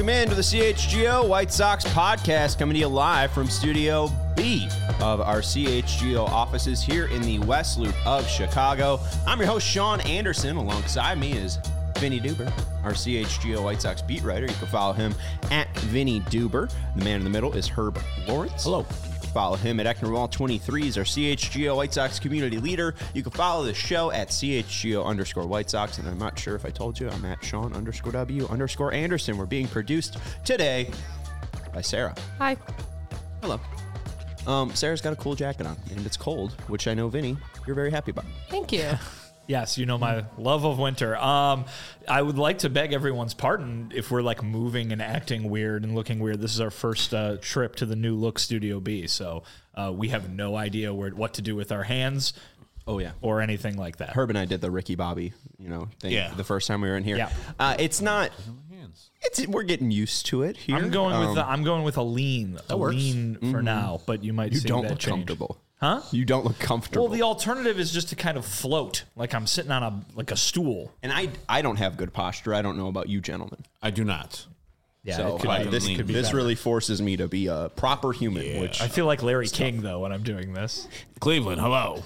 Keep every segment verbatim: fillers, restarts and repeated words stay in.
Welcome in to the C H G O White Sox podcast, coming to you live from Studio B of our C H G O offices here in the West Loop of Chicago. I'm your host, Sean Anderson. Alongside me is Vinny Duber, our C H G O White Sox beat writer. You can follow him at Vinny Duber. The man in the middle is Herb Lawrence. Hello. Follow him at Ecknerwall twenty-three. He's our C H G O White Sox community leader. You can follow the show at C H G O underscore White Sox. And I'm not sure if I told you, I'm at Sean underscore W underscore Anderson. We're being produced today by Sarah. Hi. Hello. Um, Sarah's got a cool jacket on, and it's cold, which I know, Vinny, you're very happy about. Thank you. Yes, you know my love of winter. Um, I would like to beg everyone's pardon if we're like moving and acting weird and looking weird. This is our first uh, trip to the new look Studio B, so uh, we have no idea where what to do with our hands. Oh, yeah. Or anything like that. Herb and I did the Ricky Bobby, you know, thing Yeah. the first time we were in here. Yeah. Uh, it's not... It's we're getting used to it here. I'm going um, with the, I'm going with a lean, a works. lean for Mm-hmm. now, but you might You see don't that look change. comfortable. Huh? You don't look comfortable. Well, the alternative is just to kind of float, like I'm sitting on a like a stool. and I I don't have good posture. I don't know about you gentlemen. I do not. Yeah, so it could uh, be- this it could be this better. really forces me to be a proper human, which I feel like Larry King though when I'm doing this. Cleveland, hello.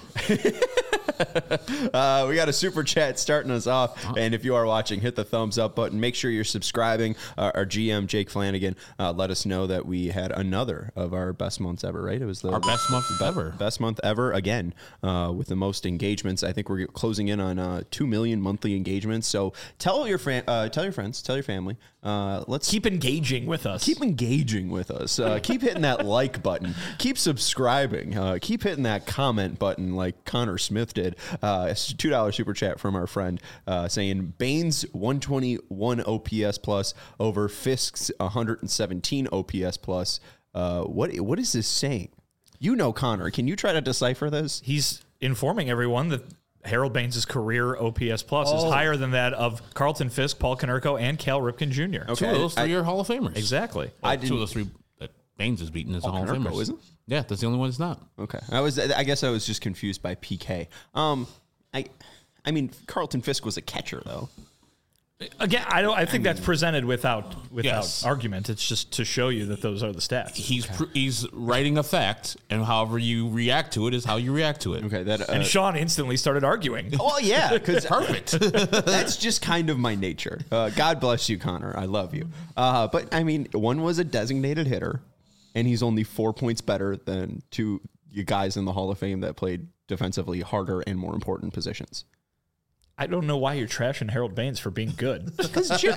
Uh, we got a super chat starting us off, and if you are watching, hit the thumbs up button. Make sure you're subscribing. Uh, our G M Jake Flanagan uh, let us know that we had another of our best months ever. Right? It was the Our best month ever. best month ever again, uh, with the most engagements. I think we're closing in on uh, two million monthly engagements. So tell your friend, uh, tell your friends, tell your family. Uh, let's Keep engaging with us. Keep engaging with us. Uh, keep hitting that like button. Keep subscribing. Uh, keep hitting that comment button like Connor Smith did. Uh, it's a two dollar super chat from our friend uh, saying Baines one twenty-one O P S plus over Fisk's one seventeen O P S plus. Uh, what what is this saying? You know, Connor. Can you try to decipher this? He's informing everyone that Harold Baines' career O P S plus is higher than that of Carlton Fisk, Paul Konerko, and Cal Ripken Junior Okay. Two of those I- three are Hall of Famers. Exactly. Well, I two didn't- of those three that Baines has beaten is a Hall of Konerko, Famers. isn't? Yeah, that's the only one that's not. Okay, I was. I guess I was just confused by P K. Um, I, I mean, Carlton Fisk was a catcher though. Again, I don't. I think that's presented without without Yes. argument. It's just to show you that those are the stats. He's pr- he's writing a fact, and however you react to it is how you react to it. Okay, that. Uh, And Sean instantly started arguing. well, yeah, because Perfect. that's just kind of my nature. Uh, God bless you, Connor. I love you. Uh, but I mean, one was a designated hitter, and he's only four points better than two you guys in the Hall of Fame that played defensively harder and more important positions. I don't know why you're trashing Harold Baines for being good. Because I,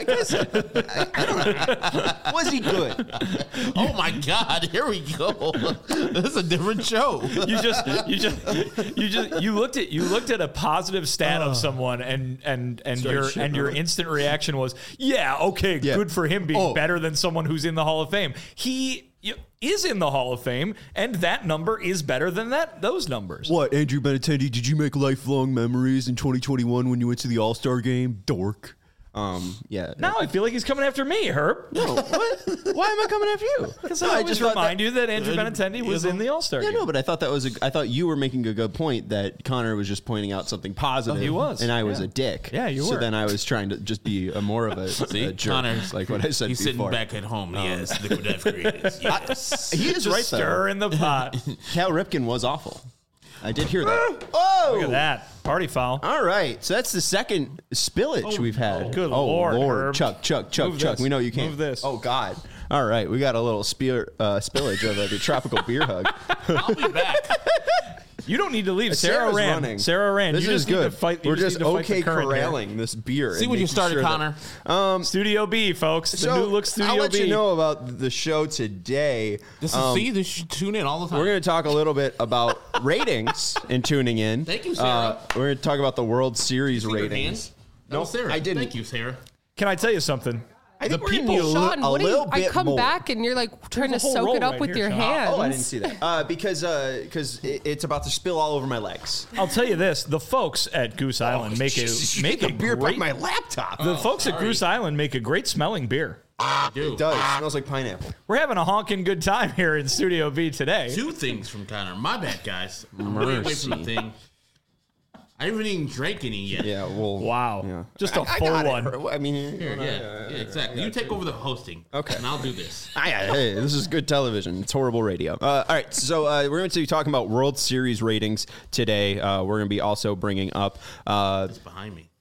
I don't know. Was he good? Oh my God! Here we go. This is a different show. You just, you just, you just, you looked at, you looked at a positive stat of someone, and and and Started your shitting and your on it. instant reaction was, yeah, okay, Yeah. good for him being Oh. better than someone who's in the Hall of Fame. He y- is in the Hall of Fame, and that number is better than that those numbers. What, Andrew Benintendi, did you make lifelong memories in twenty twenty-one when you went to the All-Star game? Dork. Um, yeah. Now I feel like he's coming after me, Herb. No, what? Why am I coming after you? Because No, I just thought remind you that Andrew Benintendi was in the All-Star Yeah, game. no, but I thought that was a, I thought you were making a good point that Connor was just pointing out something positive. Oh, he was. And I was Yeah. a dick. Yeah, you So were. then I was trying to just be a more of a, See, a jerk, Connor's like what I said He's before. sitting back at home. yes, look what I've created. Yes. He is Just right, stir though. in the pot. Cal Ripken was awful. I did hear that. Oh! Look at that. Party foul. All right, so that's the second spillage we've had. Good oh, Lord, Herb. Chuck, Chuck, Chuck, Move Chuck. this. We know you can't. Move this. Oh God! All right, we got a little spear, uh, spillage of uh, the tropical beer hug. I'll be back. You don't need to leave. Sarah Sarah's ran. running. Sarah ran. This you is just good. need to fight. you We're just just need to fight the okay current here. corralling this beer. See and what you making started, sure that- Connor. Studio B, folks. The So new look Studio I'll let B. you know about the show today. This is Um, see. This should tune in all the time. We're going to talk a little bit about ratings and tuning in. Thank you, Sarah. Uh, we're going to talk about the World Series See your ratings. hands? No, No, Sarah. I didn't. Thank you, Sarah. Can I tell you something? I think The we're gonna people- need a, li- Sean, a what do you, little I bit come more. back and you're like trying to a whole soak roll it up right with here, your Sean. hands. Oh, I didn't see that. Uh, because uh, because it, it's about to spill all over my legs. I'll tell you this: the folks at Goose Island make a You make get a the beer great. by my laptop. the folks at Goose Island make a great smelling beer. Dude. It does. It smells like pineapple. We're having a honking good time here in Studio B today. Two things from Connor. My bad, guys. I'm way away from the thing. I haven't even drank any yet. Yeah, well, Wow. yeah. Just a I- I full got it. one. I mean, Here, yeah, yeah, exactly. You take over the hosting. Okay. And I'll do this. Ah, yeah, hey, this is good television. It's horrible radio. Uh, all right, so uh, we're going to be talking about World Series ratings today. Uh, we're going to be also bringing up. Uh, It's behind me.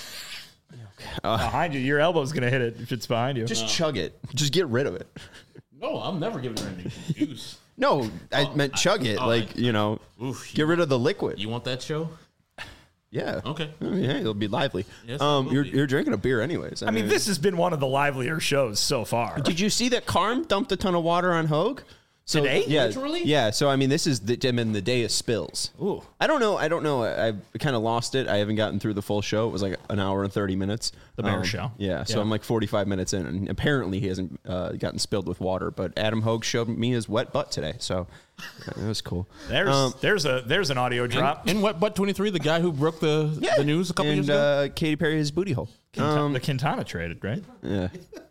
Behind you. Your elbow's going to hit it if it's behind you. just chug it. Just get rid of it. No, I'm never giving her any juice. No, I Oh, meant chug it. oh, like, I- you know, Oof, get rid of the liquid. You want that show? Yeah. Okay. I mean, hey, it'll be lively. Yes, it um, will you're, be. you're drinking a beer anyways. I mean, this has been one of the livelier shows so far. Did you see that Carm dumped a ton of water on Hogue? So, Today? Yeah, Literally? yeah. So I mean, this is the I mean, the day of spills. Ooh. I don't know. I don't know. I, I kind of lost it. I haven't gotten through the full show. It was like an hour and thirty minutes. The Bear show. Yeah. So Yeah. I'm like forty-five minutes in, and apparently he hasn't uh, gotten spilled with water. But Adam Hogue showed me his wet butt today, so that was cool. There's Um, there's a there's an audio drop. And Wet Butt twenty-three, the guy who broke the yeah. the news a couple and, years ago. uh, Katy Perry his booty hole. Quinta- the Quintana traded, right? Yeah.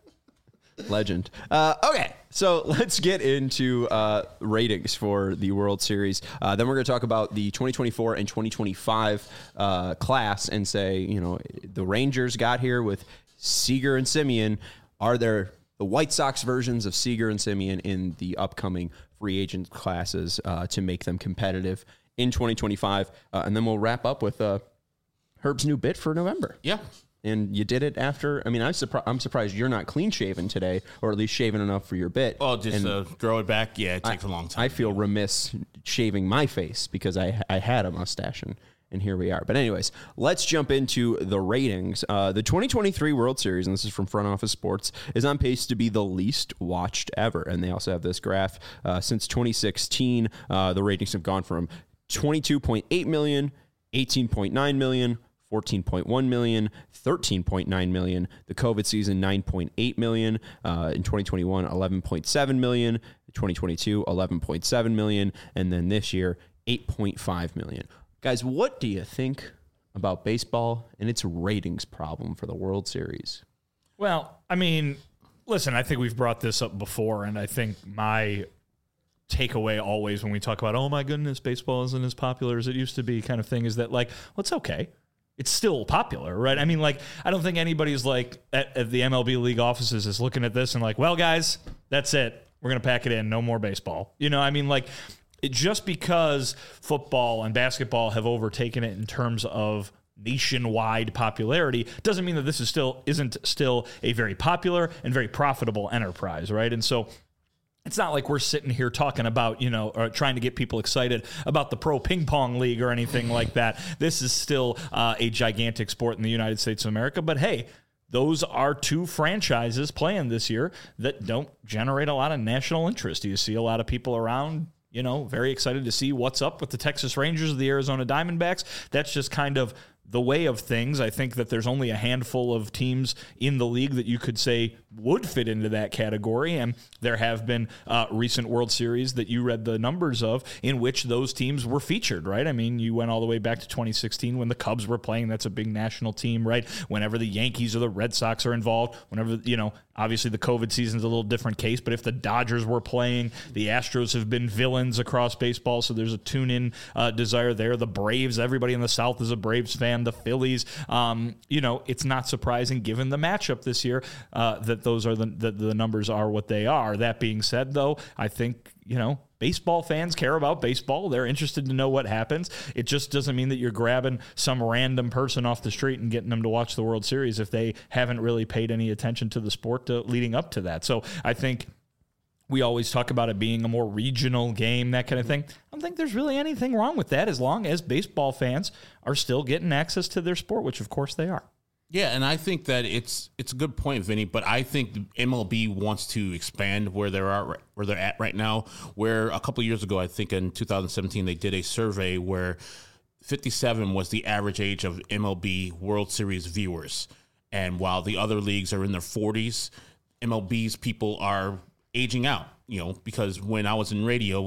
Legend. Uh, okay, so let's get into uh, ratings for the World Series. Uh, then we're going to talk about the twenty twenty-four and twenty twenty-five uh, class and say, you know, the Rangers got here with Seager and Simeon. Are there the White Sox versions of Seager and Simeon in the upcoming free agent classes uh, to make them competitive in twenty twenty-five? Uh, and then we'll wrap up with uh, Herb's new bit for November. Yeah. And you did it after. I mean, I'm surprised. I'm surprised you're not clean shaven today, or at least shaven enough for your bit. Oh, just And uh, grow it back. Yeah, it takes a long time. I feel remiss shaving my face because I I had a mustache and and here we are. But anyways, let's jump into the ratings. Uh, the twenty twenty-three World Series, and this is from Front Office Sports, is on pace to be the least watched ever. And they also have this graph uh, since twenty sixteen. Uh, the ratings have gone from twenty-two point eight million, eighteen point nine million. fourteen point one million, thirteen point nine million, the COVID season nine point eight million, uh, in twenty twenty-one eleven point seven million, twenty twenty-two eleven point seven million, and then this year eight point five million. Guys, what do you think about baseball and its ratings problem for the World Series? Well, I mean, listen, I think we've brought this up before, and I think my takeaway always when we talk about, oh my goodness, baseball isn't as popular as it used to be kind of thing is that, like, well, it's okay. It's still popular, right? I mean, like, I don't think anybody's like at, at the M L B league offices is looking at this and like, well, guys, that's it. We're going to pack it in. No more baseball. You know, I mean, like, it, just because football and basketball have overtaken it in terms of nationwide popularity doesn't mean that this is still isn't still a very popular and very profitable enterprise, right? And so it's not like we're sitting here talking about, you know, or trying to get people excited about the Pro Ping Pong League or anything like that. This is still uh, a gigantic sport in the United States of America. But hey, those are two franchises playing this year that don't generate a lot of national interest. You see a lot of people around, you know, very excited to see what's up with the Texas Rangers or the Arizona Diamondbacks. That's just kind of the way of things. I think that there's only a handful of teams in the league that you could say would fit into that category, and there have been uh, recent World Series that you read the numbers of in which those teams were featured, right? I mean, you went all the way back to twenty sixteen when the Cubs were playing. That's a big national team, right? Whenever the Yankees or the Red Sox are involved, whenever, you know, obviously the COVID season's a little different case, but if the Dodgers were playing, the Astros have been villains across baseball, so there's a tune-in uh, desire there. The Braves, everybody in the South is a Braves fan. The Phillies, um, you know, it's not surprising given the matchup this year uh, that those are the, the the numbers are what they are. That being said, though, I think, you know, baseball fans care about baseball. They're interested to know what happens. It just doesn't mean that you're grabbing some random person off the street and getting them to watch the World Series if they haven't really paid any attention to the sport to, leading up to that. So I think we always talk about it being a more regional game, that kind of thing. I don't think there's really anything wrong with that as long as baseball fans are still getting access to their sport, which of course they are. Yeah, and I think that it's it's a good point, Vinny. But I think the M L B wants to expand where they're at, where they're at right now. Where a couple of years ago, I think in two thousand seventeen, they did a survey where fifty-seven was the average age of M L B World Series viewers, and while the other leagues are in their forties, M L B's people are aging out. You know, because when I was in radio,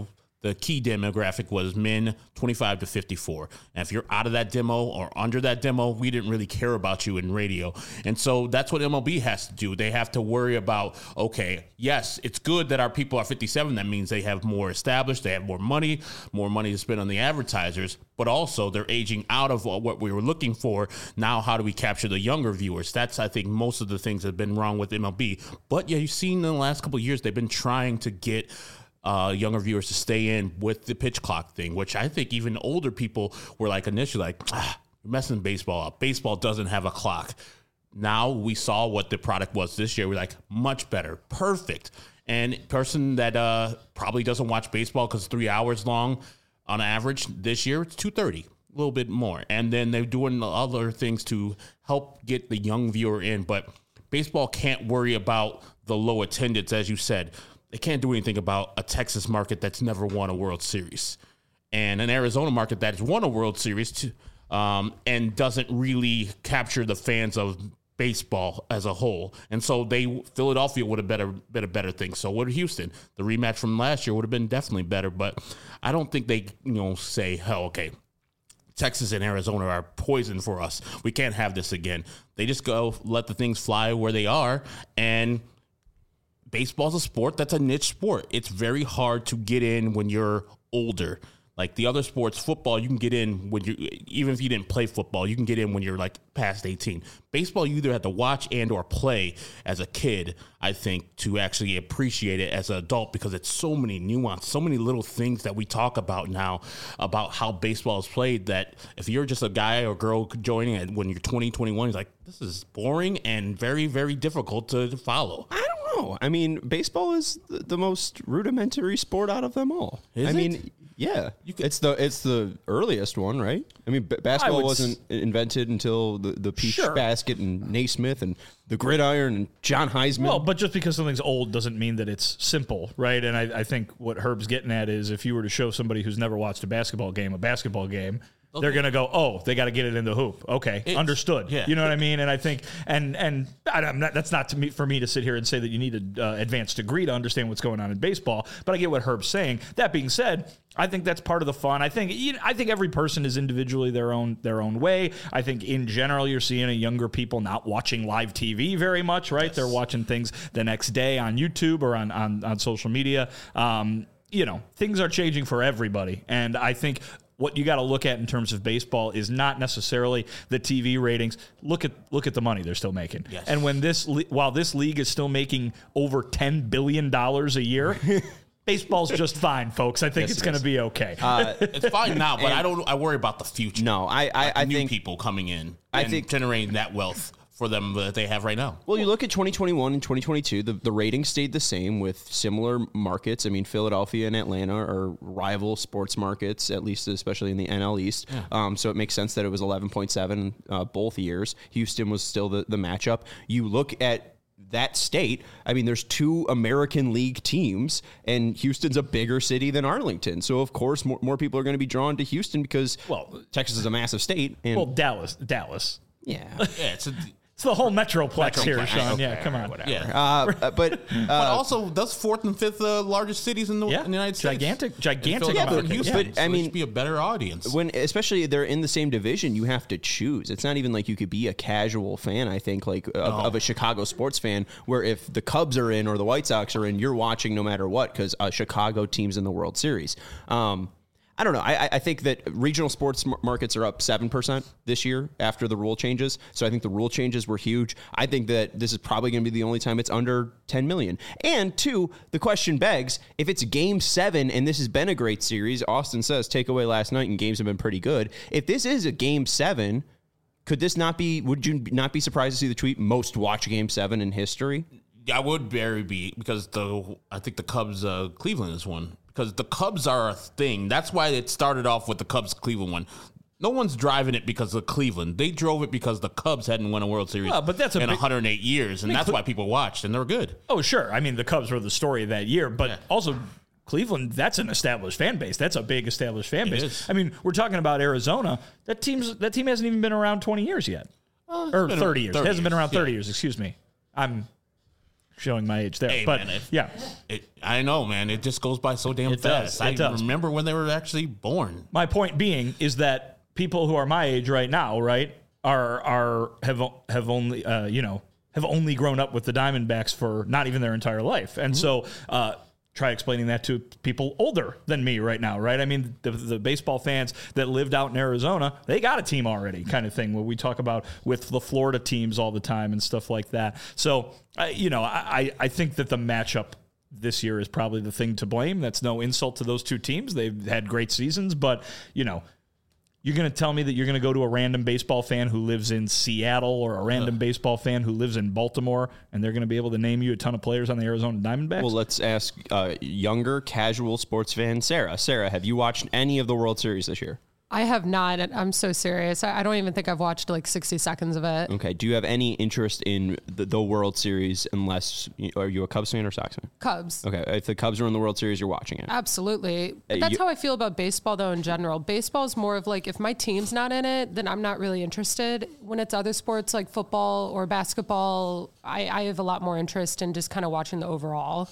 the key demographic was men twenty-five to fifty-four. And if you're out of that demo or under that demo, we didn't really care about you in radio. And so that's what M L B has to do. They have to worry about, okay, yes, it's good that our people are fifty-seven. That means they have more established, they have more money, more money to spend on the advertisers, but also they're aging out of what we were looking for. Now, how do we capture the younger viewers? That's, I think, most of the things that have been wrong with M L B. But yeah, you've seen in the last couple of years, they've been trying to get Uh, younger viewers to stay in with the pitch clock thing, which I think even older people were like initially like, ah, you're messing baseball up. Baseball doesn't have a clock. Now we saw what the product was this year. We're like, much better, perfect. And person that uh, probably doesn't watch baseball because it's three hours long on average this year, it's two thirty, a little bit more. And then they're doing other things to help get the young viewer in. But baseball can't worry about the low attendance, as you said. They can't do anything about a Texas market that's never won a World Series and an Arizona market that has won a World Series too, um, and doesn't really capture the fans of baseball as a whole. And so they Philadelphia would have better been a better thing. So would Houston. The rematch from last year would have been definitely better, but I don't think they, you know, say, hell, okay, Texas and Arizona are poison for us. We can't have this again. They just go let the things fly where they are, and baseball's a sport that's a niche sport. It's very hard to get in when you're older. Like the other sports, football, you can get in when you, even if you didn't play football, you can get in when you're like past eighteen. Baseball, you either have to watch and or play as a kid, I think, to actually appreciate it as an adult, because it's so many nuance, so many little things that we talk about now about how baseball is played, that if you're just a guy or girl joining it when you're twenty, twenty-one, it's like, this is boring and very, very difficult to follow. I don't know. I mean, baseball is the, the most rudimentary sport out of them all. Is I it? mean, yeah, it's the it's the earliest one, right? I mean, b- basketball wasn't s- invented until the, the peach Sure. basket and Naismith and the gridiron and John Heisman. Well, but just because something's old doesn't mean that it's simple, right? And I, I think what Herb's getting at is if you were to show somebody who's never watched a basketball game a basketball game, okay, they're going to go, oh, they got to get it in the hoop. Okay, it's, understood. Yeah. You know what I mean? And I think, and and I'm not, that's not to me for me to sit here and say that you need an uh, advanced degree to understand what's going on in baseball, but I get what Herb's saying. That being said, I think that's part of the fun. I think you know, I think every person is individually their own their own way. I think in general you're seeing a younger people not watching live T V very much, right? Yes. They're watching things the next day on YouTube or on on, on social media. Um, you know, things are changing for everybody, and I think what you got to look at in terms of baseball is not necessarily the T V ratings. Look at look at the money they're still making. Yes. And when this while this league is still making over ten billion dollars a year. Baseball's just fine, folks. I think yes, it's it going to be okay. Uh, it's fine now, but I don't. I worry about the future. No, I, I, I new think people coming in. I and think generating that wealth for them that they have right now. Well, you look at twenty twenty-one and twenty twenty-two, the, the ratings stayed the same with similar markets. I mean, Philadelphia and Atlanta are rival sports markets, at least especially in the N L East. Yeah. Um, so it makes sense that it was eleven point seven uh, both years. Houston was still the, the matchup. You look at that state, I mean, there's two American League teams, and Houston's a bigger city than Arlington. So, of course, more, more people are going to be drawn to Houston because, well, Texas is a massive state. And well, Dallas, Dallas. Yeah. Yeah, it's a... It's the whole Metroplex, Metroplex. here, Sean. Okay, yeah, come on. Whatever. Yeah. Uh, but, uh, but also, that's fourth and fifth uh, largest cities in the, yeah. in the United States. Gigantic, gigantic. Yeah, but, Houston, but so I mean, should be a better audience. When, especially they're in the same division, you have to choose. It's not even like you could be a casual fan. I think like of, no. of a Chicago sports fan, where if the Cubs are in or the White Sox are in, you're watching no matter what because a Chicago team's in the World Series. Um, I don't know. I, I think that regional sports markets are up seven percent this year after the rule changes. So I think the rule changes were huge. I think that this is probably going to be the only time it's under ten million. And two, the question begs, if it's game seven and this has been a great series, Austin says takeaway last night and games have been pretty good. If this is a game seven, could this not be, would you not be surprised to see the tweet most watched game seven in history? I would very be, because the I think the Cubs uh, Cleveland is one. Because the Cubs are a thing. That's why it started off with the Cubs Cleveland one. No one's driving it because of Cleveland. They drove it because the Cubs hadn't won a World Series well, but that's a in big, one hundred eight years, and I mean, that's why people watched, and they were good. Oh, sure. I mean, the Cubs were the story of that year, but yeah. also Cleveland, that's an established fan base. That's a big established fan base. I mean, we're talking about Arizona. That team's that team hasn't even been around twenty years yet. Uh, or thirty years. thirty it hasn't years. been around thirty yeah. years, excuse me. I'm showing my age there. Hey, but man, if- yeah, It, I know, man. It just goes by so damn It does, fast. it I does. remember when they were actually born. my point being is that people who are my age right now, right, are are have have only uh, you know have only grown up with the Diamondbacks for not even their entire life, and so. Uh, Try explaining that to people older than me right now, right? I mean, the, the baseball fans that lived out in Arizona, they got a team already, kind of thing. Where we talk about with the Florida teams all the time and stuff like that. So, I, you know, I, I think that the matchup this year is probably the thing to blame. That's no insult to those two teams. They've had great seasons, but you know. You're going to tell me that you're going to go to a random baseball fan who lives in Seattle or a random uh. baseball fan who lives in Baltimore, and they're going to be able to name you a ton of players on the Arizona Diamondbacks? Well, let's ask uh, younger, casual sports fan Sarah. Sarah, have you watched any of the World Series this year? I have not. I'm so serious. I don't even think I've watched like sixty seconds of it. Okay. Do you have any interest in the, the World Series unless, are you a Cubs fan or Sox fan? Cubs. Okay. If the Cubs are in the World Series, you're watching it. Absolutely. But Uh, that's you- how I feel about baseball, though, in general. Baseball is more of like, if my team's not in it, then I'm not really interested. When it's other sports like football or basketball, I, I have a lot more interest in just kind of watching the overall.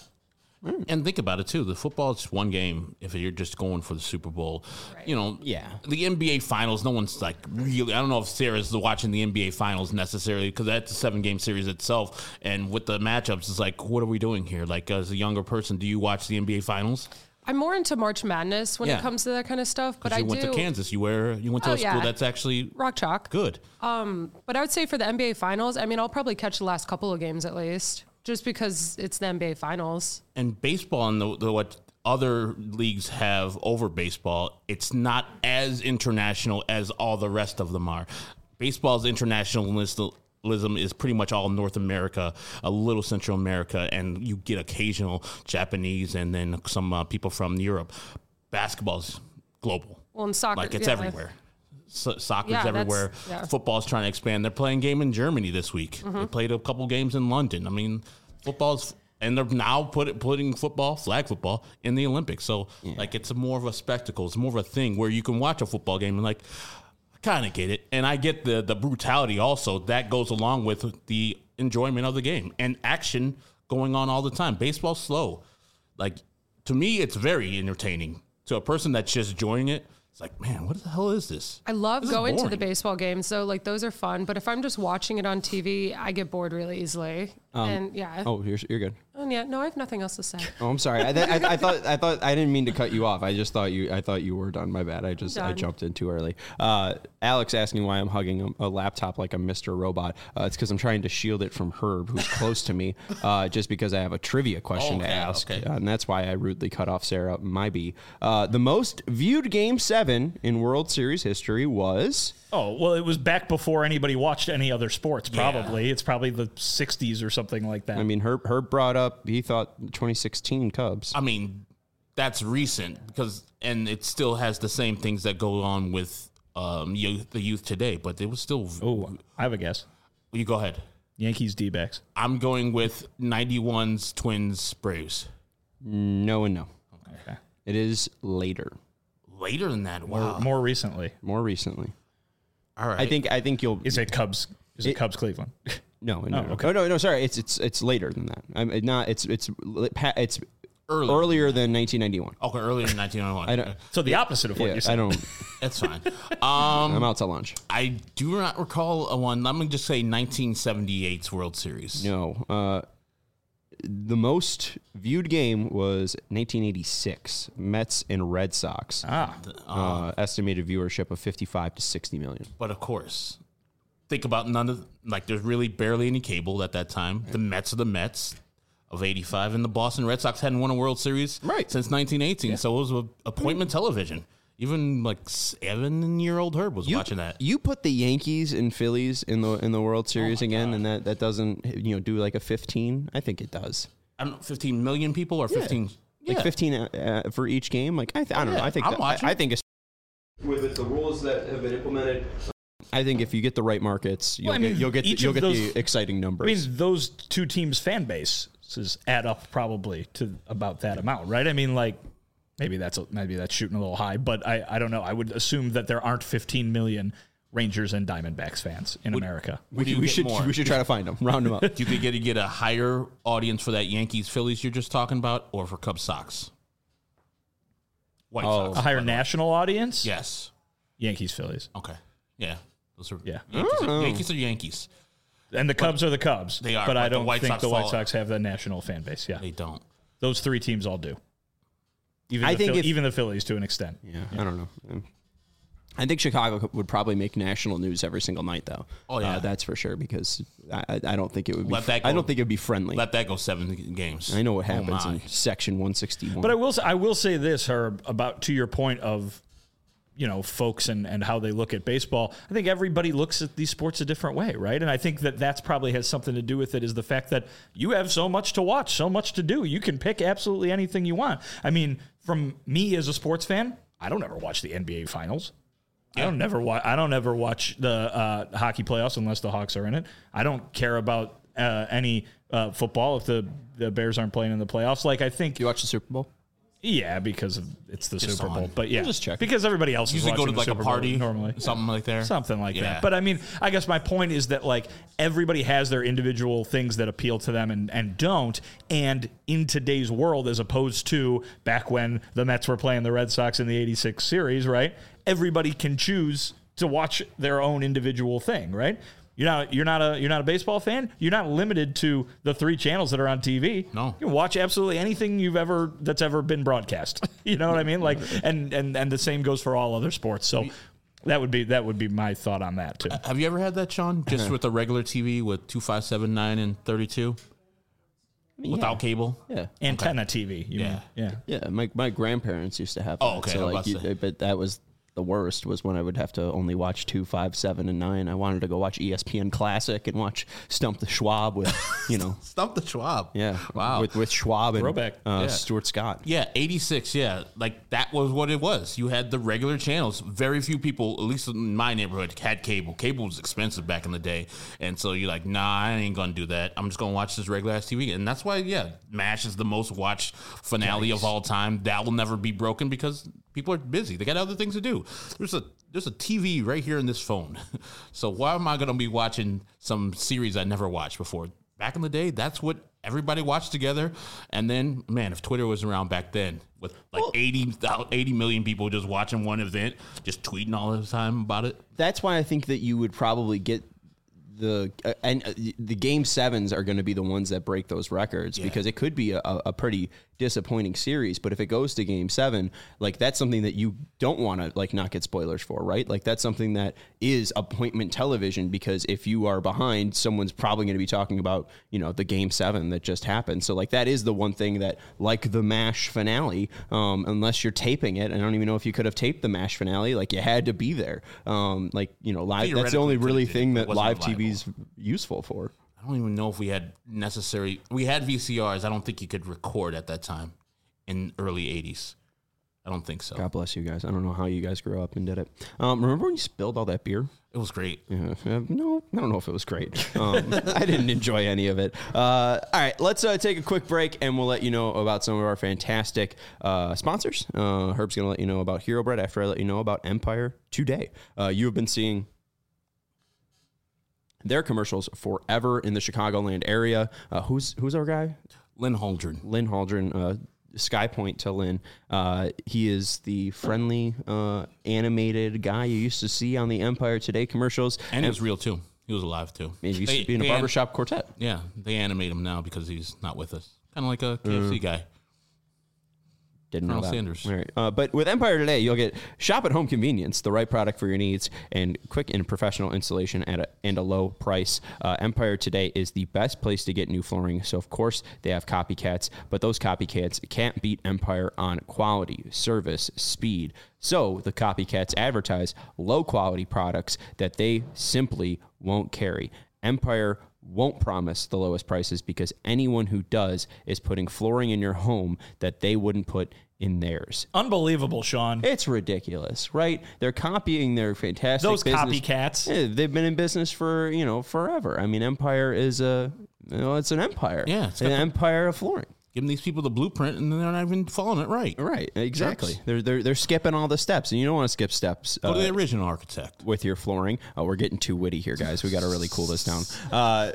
And think about it too. The football is one game. If you're just going for the Super Bowl, right. you know, Yeah. The N B A Finals. No one's like really. I don't know if Sarah's watching the N B A Finals necessarily because that's a seven game series itself. And with the matchups, it's like, what are we doing here? Like as a younger person, do you watch the N B A Finals? I'm more into March Madness when Yeah. it comes to that kind of stuff. But you I went do to Kansas. You wear. You went to Oh, a school yeah. that's actually rock chalk. good. But I would say for the N B A Finals, I mean, I'll probably catch the last couple of games at least, just because it's the N B A Finals. And baseball and the, the what other leagues have over baseball, it's not as international as all the rest of them are. Baseball's internationalism is pretty much all North America, a little Central America, and you get occasional Japanese and then some uh, people from Europe. Basketball's global. Well, in soccer, Like it's yeah. everywhere. So, soccer's Yeah, that's- everywhere. yeah. Football's trying to expand. They're playing a game in Germany this week. Mm-hmm. They played a couple games in London. I mean, football's and they're now put, putting football, flag football, in the Olympics. So like it's a more of a spectacle. It's more of a thing where you can watch a football game and like I kind of get it, and I get the the brutality also that goes along with the enjoyment of the game and action going on all the time. Baseball's slow. Like to me, it's very entertaining. To a person that's just enjoying it, it's like, man, what the hell is this? I love This is going to the boring. baseball games, though. Like those are fun. But if I'm just watching it on T V, I get bored really easily. and yeah, Oh, you're, you're good. and yeah, no, I have nothing else to say. Oh, I'm sorry. I, th- I, I thought I thought I didn't mean to cut you off. I just thought you I thought you were done. My bad. I just I Done. jumped in too early. Uh, Alex asking why I'm hugging a, a laptop like I'm Mister Robot. Uh, it's because I'm trying to shield it from Herb, who's close to me. Uh, just because I have a trivia question to Okay, ask, okay. uh, and that's why I rudely cut off Sarah. My B. Uh, the most viewed Game Seven in World Series history was. Oh, well, it was back before anybody watched any other sports, probably. It's probably the sixties or something like that. I mean, Herb Herb brought up he thought twenty sixteen Cubs. I mean, that's recent because, and it still has the same things that go on with um, youth, the youth today, but it was still. oh, I have a guess. You go ahead. Yankees D-backs. I'm going with ninety-one's Twins Braves. No and no. Okay. It is later, Later than that, wow. Or more recently. more recently. All right. I think I think you'll. Is it Cubs? Is it, It- Cubs Cleveland? No, no, Oh, no. okay. Oh, no, no. Sorry, it's it's it's later than that. I'm it not. It's it's it's Early. earlier than nineteen ninety-one. Okay, earlier in nineteen ninety-one. I don't. So the opposite of what Yeah, you said. I don't. That's fine. Um, I'm out to lunch. I do not recall a one. I'm going to just say nineteen seventy-eight's World Series. No. Uh, the most viewed game was nineteen eighty-six Mets and Red Sox. Ah, Uh, estimated viewership of fifty-five to sixty million. But of course, think about none of like there's really barely any cable at that time. The Mets are the Mets of eighty-five, and the Boston Red Sox hadn't won a World Series Right. since nineteen eighteen. So it was a appointment television. Even like seven-year-old Herb was You, watching that. you put the Yankees and Phillies in the in the World Series my again, God. and that, that doesn't you know do like a fifteen. I think it does. I don't know, fifteen million people or fifteen. Like Yeah. fifteen uh, uh, for each game. Like I, th- I don't Yeah, know. I think I'm that- watching. I, I think it's with the rules that have been implemented. I think if you get the right markets, you'll Well, I mean, get you'll get the, each you'll of get those- the exciting I numbers. mean, those two teams' fan bases add up probably to about that amount, right? I mean, like maybe that's a, maybe that's shooting a little high, but I, I don't know. I would assume that there aren't fifteen million Rangers and Diamondbacks fans in America. Would We, you we get should more? we should try to find them, round them up. Do you think you'd get a higher audience for that Yankees Phillies you're just talking about, or for Cubs Sox? White Oh. Sox. A higher by the way. national audience? Yes. Yankees, Phillies. Okay. Yeah. Those are Yeah. Yankees, are, Yankees are Yankees. And the Cubs are the Cubs. They are, But I but the don't White think Sox the White fall- Sox have the national fan base. Yeah. They don't. Those three teams all do. Even, I the think Phil- if- even the Phillies to an extent. Yeah, I don't know. Um, I think Chicago would probably make national news every single night, though. Oh, yeah. uh, that's for sure. Because I, I I don't think it would be. Let that I go. don't think it would be friendly. Let that go seven games. I know what Oh, happens my. in Section one sixty-one. But I will say, I will say this, Herb, about to your point of, you know, folks and, and how they look at baseball. I think everybody looks at these sports a different way, right? And I think that that's probably has something to do with it is the fact that you have so much to watch, so much to do. You can pick absolutely anything you want. I mean, from me as a sports fan, I don't ever watch the N B A finals. I don't never watch. I don't ever watch the uh, hockey playoffs unless the Hawks are in it. I don't care about uh, any uh, football if the, the Bears aren't playing in the playoffs. Like I think, you watch the Super Bowl? yeah, because of, it's the Just Super Bowl. on. But yeah, Just check. because everybody else is Usually go watching to the like a Super Bowl party normally. something like there. Something like Yeah. that. But I mean, I guess my point is that like everybody has their individual things that appeal to them and, and don't. And in today's world, as opposed to back when the Mets were playing the Red Sox in the eighty-six series, right? Everybody can choose to watch their own individual thing, right? You're not you're not a you're not a baseball fan. You're not limited to the three channels that are on T V. No. You can watch absolutely anything you've ever that's ever been broadcast. You know what I mean? Like and and and the same goes for all other sports. So that would be that would be my thought on that too. Have you ever had that, Sean? Just with a regular T V with two five seven nine and thirty-two? Without cable? Yeah. Antenna T V. You Yeah. mean? Yeah. Yeah, my my grandparents used to have. Oh, that, okay, So I was like, about to you- say. but that was the worst. Was when I would have to only watch two, five, seven, and nine. I wanted to go watch E S P N Classic and watch Stump the Schwab with, you know, Stump the Schwab. yeah, Wow. with with Schwab and Throwback. uh, Yeah. Stuart Scott. Yeah, eighty-six, yeah. Like, that was what it was. You had the regular channels. Very few people, at least in my neighborhood, had cable. Cable was expensive back in the day. And so you're like, nah, I ain't going to do that. I'm just going to watch this regular-ass T V. And that's why, yeah, MASH is the most watched finale of all time. That will never be broken because people are busy. They got other things to do. There's a there's a T V right here in this phone. So why am I going to be watching some series I never watched before? Back in the day, that's what everybody watched together. And then, man, if Twitter was around back then with like eighty, eighty million people just watching one event, just tweeting all the time about it. That's why I think that you would probably get the uh, and uh, the game sevens are going to be the ones that break those records because it could be a, a pretty disappointing series. But if it goes to game seven, like that's something that you don't want to like not get spoilers for, right? Like that's something that is appointment television because if you are behind, someone's probably going to be talking about, you know, the game seven that just happened. So like that is the one thing that like the MASH finale, um, unless you're taping it, I don't even know if you could have taped the MASH finale. Like you had to be there. Um, like, you know, live. That's the only Theoretically, really could've did it, thing but it that wasn't live T reliable. V's useful for. I don't even know if we had necessary. We had V C Rs. I don't think you could record at that time in early eighties. I don't think so. God bless you guys. I don't know how you guys grew up and did it. Um, remember when you spilled all that beer? It was great. Yeah, uh, no, I don't know if it was great. Um, I didn't enjoy any of it. Uh, all right, let's uh, take a quick break, and we'll let you know about some of our fantastic uh, sponsors. Uh, Herb's going to let you know about Hero Bread after I let you know about Empire today. Uh, you have been seeing their commercials forever in the Chicagoland area. Uh, who's who's our guy? Lynn Holdren. Lynn Holdren, uh, Sky Point to Lynn. Uh, he is the friendly, uh, animated guy you used to see on the Empire Today commercials. And he was real, too. He was alive, too. He used They- to be in a they an- barbershop quartet. Yeah, they animate him now because he's not with us. Kind of like a K F C guy. Didn't know Colonel that. Sanders. All right. Uh, but with Empire Today, you'll get shop at home convenience, the right product for your needs, and quick and professional installation at a, and a low price. Uh, Empire Today is the best place to get new flooring. So, of course, they have copycats, but those copycats can't beat Empire on quality, service, speed. So the copycats advertise low-quality products that they simply won't carry. Empire won't promise the lowest prices because anyone who does is putting flooring in your home that they wouldn't put in theirs. Unbelievable, Sean. It's ridiculous, right? They're copying their fantastic Those business. copycats. Yeah, they've been in business for, you know, forever. I mean, Empire is a, you know, it's an empire. Yeah, it's an got the- empire of flooring. giving these people the blueprint, and they're not even following it right. Right, exactly. Jerks. They're they're they're skipping all the steps, and you don't want to skip steps. Go to uh, the original architect. with your flooring. Oh, we're getting too witty here, guys. We got to really cool this down. Uh,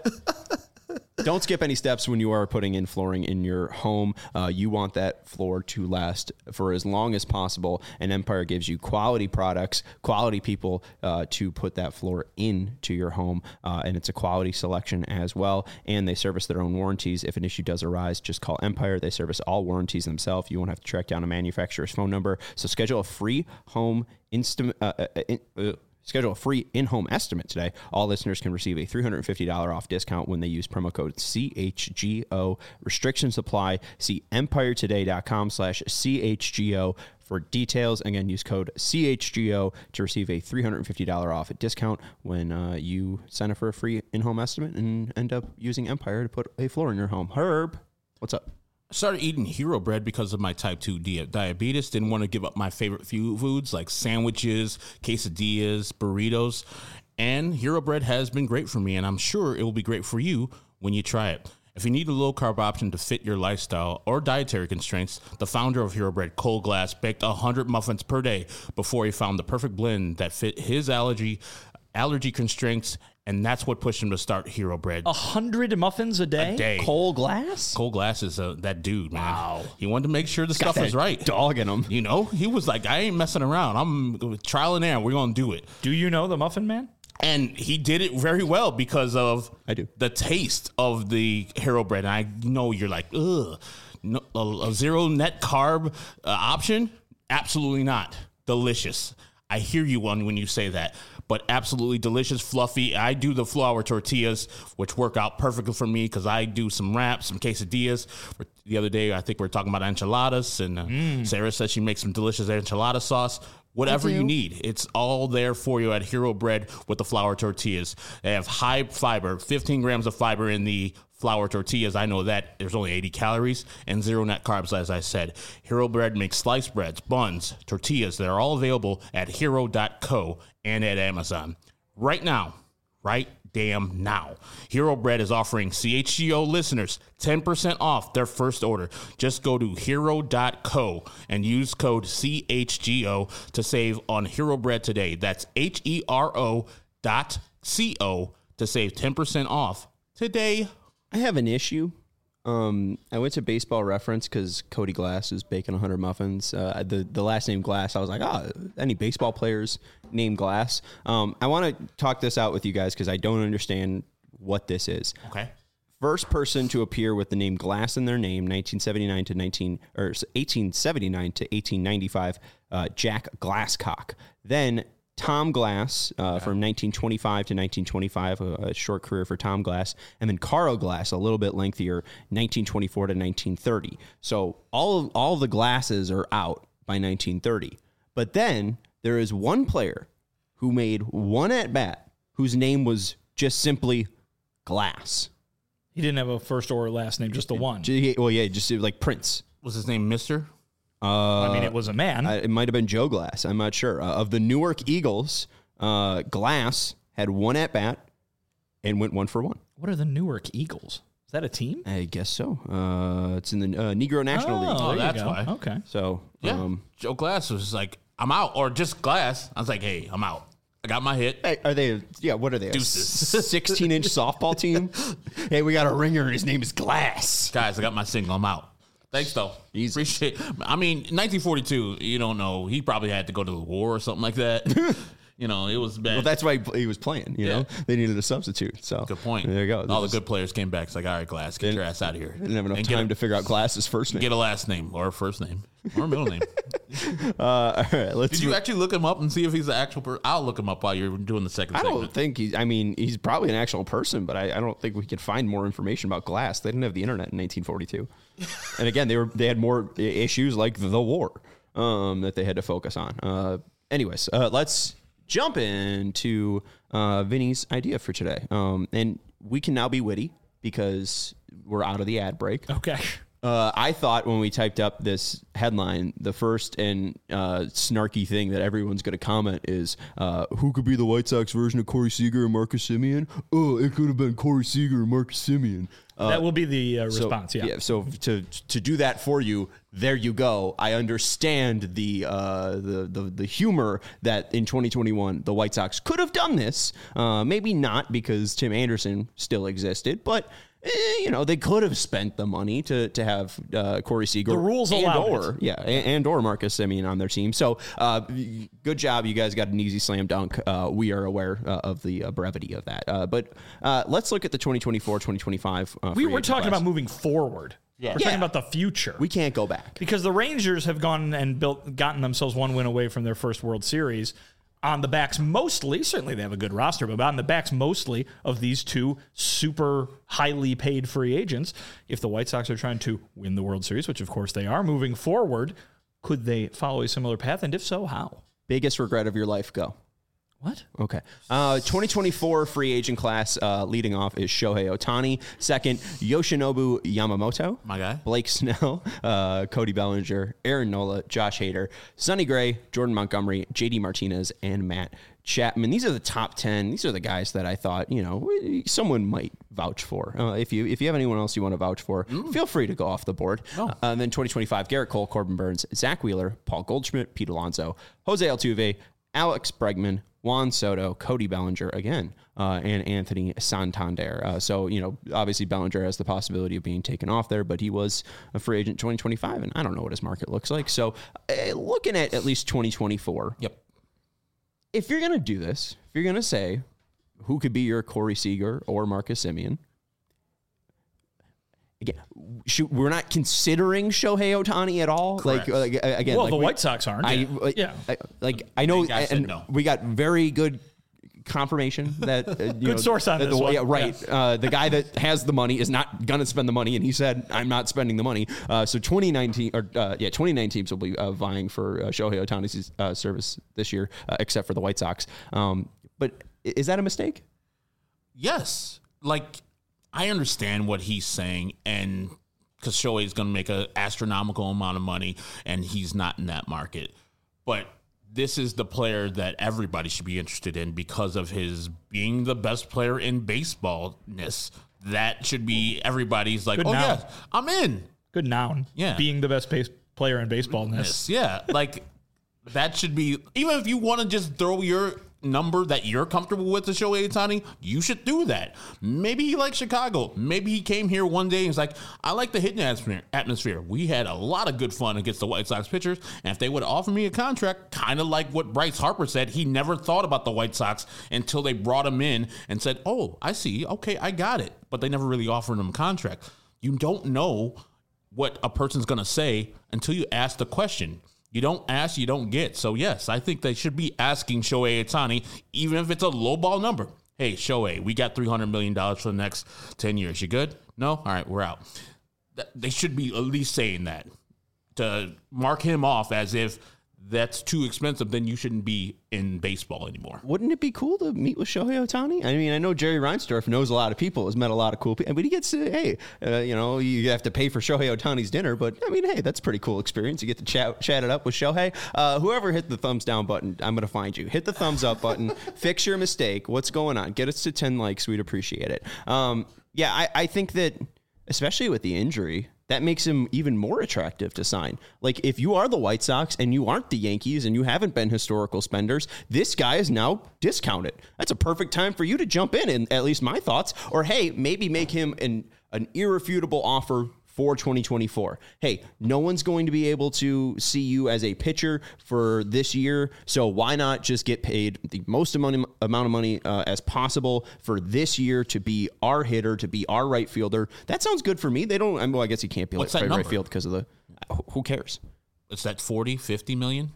don't skip any steps when you are putting in flooring in your home. Uh, you want that floor to last for as long as possible, and Empire gives you quality products, quality people uh, to put that floor into your home, uh, and it's a quality selection as well, and they service their own warranties. If an issue does arise, just call Empire. They service all warranties themselves. You won't have to track down a manufacturer's phone number. So schedule a free home instant uh, uh, in, uh, Schedule a free in-home estimate today. All listeners can receive a three hundred fifty dollars off discount when they use promo code C H G O. Restrictions apply. See empiretoday.com slash CHGO for details. Again, use code C H G O to receive a three hundred fifty dollars off discount when uh, you sign up for a free in-home estimate and end up using Empire to put a floor in your home. Herb, what's up? I started eating Hero Bread because of my type two di- diabetes. Didn't want to give up my favorite few foods like sandwiches, quesadillas, burritos. And Hero Bread has been great for me, and I'm sure it will be great for you when you try it. If you need a low-carb option to fit your lifestyle or dietary constraints, the founder of Hero Bread, Cole Glass, baked one hundred muffins per day before he found the perfect blend that fit his allergy allergy constraints, and that's what pushed him to start Hero Bread. A hundred muffins a day? A day. Cole Glass? Cole Glass is uh, that dude, man. Wow. He wanted to make sure the stuff was right. Dog in him. You know, he was like, I ain't messing around. I'm trial and error. We're going to do it. Do you know the Muffin Man? And he did it very well because of I do. the taste of the Hero Bread. And I know you're like, ugh, no, a, a zero net carb uh, option? Absolutely not. Delicious. I hear you one when you say that, but absolutely delicious, fluffy. I do the flour tortillas, which work out perfectly for me because I do some wraps, some quesadillas. The other day, I think we were talking about enchiladas, and uh, mm. Sarah said she makes some delicious enchilada sauce. Whatever you need, it's all there for you at Hero Bread with the flour tortillas. They have high fiber, fifteen grams of fiber in the flour tortillas. I know that there's only eighty calories and zero net carbs, as I said. Hero Bread makes sliced breads, buns, tortillas that are all available at hero dot co and at Amazon. Right now, right damn now, Hero Bread is offering C H G O listeners ten percent off their first order. Just go to hero dot co and use code C H G O to save on Hero Bread today. That's H E R O dot C O to save ten percent off today. I have an issue. Um, I went to Baseball Reference because Cody Glass is baking one hundred muffins. Uh, the the last name Glass, I was like, oh, any baseball players named Glass? Um, I want to talk this out with you guys because I don't understand what this is. Okay. First person to appear with the name Glass in their name, nineteen seventy-nine to nineteen or eighteen seventy-nine to eighteen ninety-five, uh, Jack Glasscock. Then Tom Glass uh, okay. from nineteen twenty-five to nineteen twenty-five, a, a short career for Tom Glass, and then Carl Glass, a little bit lengthier, nineteen twenty-four to nineteen thirty. So all of, all of the Glasses are out by nineteen thirty. But then there is one player who made one at bat whose name was just simply Glass. He didn't have a first or last name, just the one. Well, yeah, just like Prince. Was his name Mister? Uh, I mean, it was a man. I, it might have been Joe Glass. I'm not sure. Uh, of the Newark Eagles, uh, Glass had one at bat and went one for one. What are the Newark Eagles? Is that a team? I guess so. Uh, it's in the uh, Negro National oh, League. Oh, that's go. why. Okay. So, yeah. Um, Joe Glass was like, I'm out, or just Glass. I was like, hey, I'm out. I got my hit. Hey, are they? Yeah, what are they? Deuces. sixteen-inch softball team? Hey, we got a ringer, and his name is Glass. Guys, I got my single. I'm out. Thanks, though. Easy. Appreciate. I mean, nineteen forty-two. You don't know. He probably had to go to the war or something like that. You know, it was bad. Well, that's why he was playing. You Yeah. know, they needed a substitute. So Good point. There you go. All This the is- good players came back. It's like, all right, Glass, get your ass out of here. Didn't have enough And time get a, to figure out Glass's first name. get a last name or a first name or a middle name. Uh, all right, let's. Did you move- actually look him up and see if he's the actual person? I'll look him up while you're doing the second I segment. don't think he's. I mean, he's probably an actual person, but I, I don't think we could find more information about Glass. They didn't have the internet in nineteen forty-two, and again, they were they had more i- issues like the war um, that they had to focus on. Uh, anyways, uh, let's jump into uh, Vinny's idea for today, um, and we can now be witty because we're out of the ad break. Okay. Uh, I thought when we typed up this headline, the first and uh, snarky thing that everyone's going to comment is, uh, who could be the White Sox version of Corey Seager and Marcus Semien? Oh, it could have been Corey Seager and Marcus Semien. Uh, that will be the uh, response, so, yeah. yeah. So to to do that for you, there you go. I understand the uh, the, the the humor that in twenty twenty-one the White Sox could have done this. Uh, maybe not because Tim Anderson still existed, but eh, you know they could have spent the money to to have uh, Corey Seager. The rules and allow or, it. Yeah, and, and or Marcus Semien on their team. So uh, good job, you guys got an easy slam dunk. Uh, we are aware uh, of the uh, brevity of that. Uh, but uh, let's look at the twenty twenty-four twenty twenty-five. Uh, We free were agent talking class. about moving forward. Yeah. We're Yeah. talking about the future. We can't go back. Because the Rangers have gone and built, gotten themselves one win away from their first World Series on the backs mostly, certainly they have a good roster, but on the backs mostly of these two super highly paid free agents. If the White Sox are trying to win the World Series, which of course they are moving forward, could they follow a similar path? And if so, how? Biggest regret of your life, go. What? Okay. Uh, twenty twenty-four free agent class uh, leading off is Shohei Ohtani. Second, Yoshinobu Yamamoto. My guy. Blake Snell, uh, Cody Bellinger, Aaron Nola, Josh Hader, Sonny Gray, Jordan Montgomery, J D Martinez, and Matt Chapman. These are the top ten. These are the guys that I thought, you know, someone might vouch for. Uh, if you if you have anyone else you want to vouch for, mm. feel free to go off the board. Oh. Uh, and then twenty twenty-five, Garrett Cole, Corbin Burns, Zach Wheeler, Paul Goldschmidt, Pete Alonso, Jose Altuve, Alex Bregman, Juan Soto, Cody Bellinger again, uh, and Anthony Santander. Uh, so, you know, obviously Bellinger has the possibility of being taken off there, but he was a free agent twenty twenty-five, and I don't know what his market looks like. So uh, looking at at least twenty twenty-four. Yep. If you're going to do this, if you're going to say who could be your Corey Seager or Marcus Semien, again, should, we're not considering Shohei Ohtani at all. Correct. Like, like again, Well, like the we, White Sox aren't. I, Yeah. like, Yeah. I, like I know, guy said and no. we got very good confirmation that uh, you Good know, source on that this the, one. Yeah, right. Yeah. Uh, the guy that has the money is not going to spend the money, and he said, "I'm not spending the money." Uh, so twenty nineteen or uh, yeah, twenty-nine teams will be uh, vying for uh, Shohei Ohtani's uh, service this year, uh, except for the White Sox. Um, but is that a mistake? Yes. Like, I understand what he's saying, and because Shohei is going to make an astronomical amount of money, and he's not in that market. But this is the player that everybody should be interested in because of his being the best player in baseballness. That should be everybody's like, Good oh, noun. yeah, I'm in. Good noun. Yeah. Being the best base player in baseball in this. Yes, yeah. Like, that should be, even if you want to just throw your number that you're comfortable with to Shohei Ohtani, you should do that. Maybe he likes Chicago. Maybe he came here one day and was like, I like the hitting atmosphere. atmosphere. We had a lot of good fun against the White Sox pitchers, and if they would offer me a contract, kind of like what Bryce Harper said, he never thought about the White Sox until they brought him in and said, oh, I see. Okay, I got it. But they never really offered him a contract. You don't know what a person's going to say until you ask the question. You don't ask, you don't get. So, yes, I think they should be asking Shohei Ohtani, even if it's a lowball number. Hey, Shohei, we got three hundred million dollars for the next ten years. You good? No? All right, we're out. They should be at least saying that to mark him off as if that's too expensive, then you shouldn't be in baseball anymore. Wouldn't it be cool to meet with Shohei Ohtani? I mean, I know Jerry Reinsdorf knows a lot of people, has met a lot of cool people, but he gets to, hey, uh, you know, you have to pay for Shohei Ohtani's dinner, but I mean, hey, that's a pretty cool experience. You get to chat, chat it up with Shohei. Uh, whoever hit the thumbs down button, I'm going to find you. Hit the thumbs up button, fix your mistake. What's going on? Get us to ten likes. We'd appreciate it. Um, yeah, I, I think that, especially with the injury, that makes him even more attractive to sign. Like, if you are the White Sox and you aren't the Yankees and you haven't been historical spenders, this guy is now discounted. That's a perfect time for you to jump in, and at least my thoughts. Or, hey, maybe make him an, an irrefutable offer for twenty twenty-four. Hey, no one's going to be able to see you as a pitcher for this year, so why not just get paid the most amount of money uh, as possible for this year to be our hitter, to be our right fielder? That sounds good for me. They don't, I mean, well, I guess he can't be What's like that right, number? right field because of the, who cares? It's that forty, fifty million?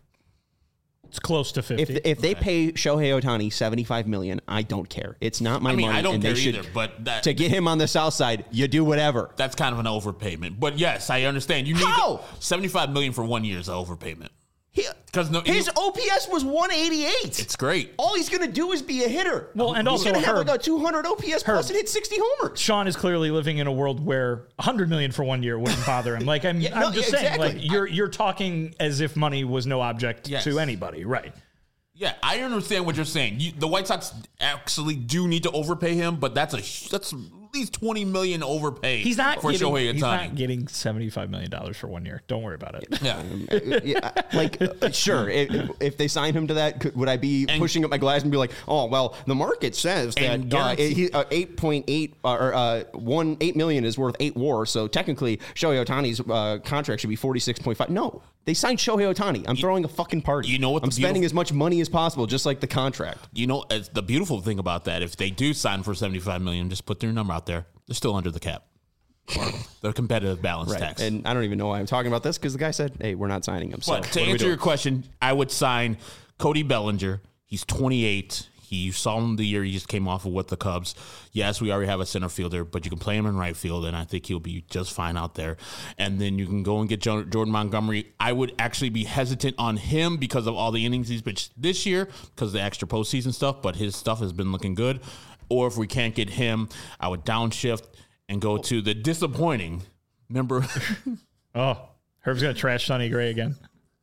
It's close to fifty. If if they pay Shohei Ohtani seventy-five million dollars, I don't care. It's not my I mean, money. I don't and care they should, either, but that, to get him on the south side, you do whatever. that's kind of an overpayment. But yes, I understand. You need How? seventy-five million dollars for one year is an overpayment. Because no, his you- O P S was one eighty-eight. It's great. All he's going to do is be a hitter. Well, and he's also going to have Herb- like a two hundred O P S plus and hit sixty homers. Sean is clearly living in a world where one hundred million for one year wouldn't bother him. Like I'm, Yeah, I'm no, just yeah, saying, exactly. like you're you're talking as if money was no object Yes. to anybody, right? Yeah, I understand what you're saying. You, the White Sox actually do need to overpay him, but that's a that's at least twenty million overpay. He's not for getting, Shohei he's not Ohtani. getting seventy-five million dollars for one year. Don't worry about it. Yeah, yeah, like uh, sure. If, if they sign him to that, could, would I be And- pushing up my glass and be like, "Oh, well, the market says And that uh, guarantee- he, uh, eight point eight uh, or uh, one eight million is worth eight WAR, so technically Shohei Ohtani's uh, contract should be forty-six point five." No, they signed Shohei Ohtani. I'm throwing a fucking party. you know what I'm the spending beautiful- as much money as possible, just like the contract. you know it's the beautiful thing about that. If they do sign for seventy-five million, just put their number out there. They're still under the cap. Or the competitive balance tax. And I don't even know why I'm talking about this because the guy said, "Hey, we're not signing him." So But what to are we answer doing? your question, I would sign Cody Bellinger. He's twenty-eight. He saw him the year he just came off of with the Cubs. Yes, we already have a center fielder, but you can play him in right field, and I think he'll be just fine out there. And then you can go and get Jo- Jordan Montgomery. I would actually be hesitant on him because of all the innings he's pitched this year, because of the extra postseason stuff, but his stuff has been looking good. Or if we can't get him, I would downshift and go to the disappointing number. Oh, Herb's gonna trash Sonny Gray again.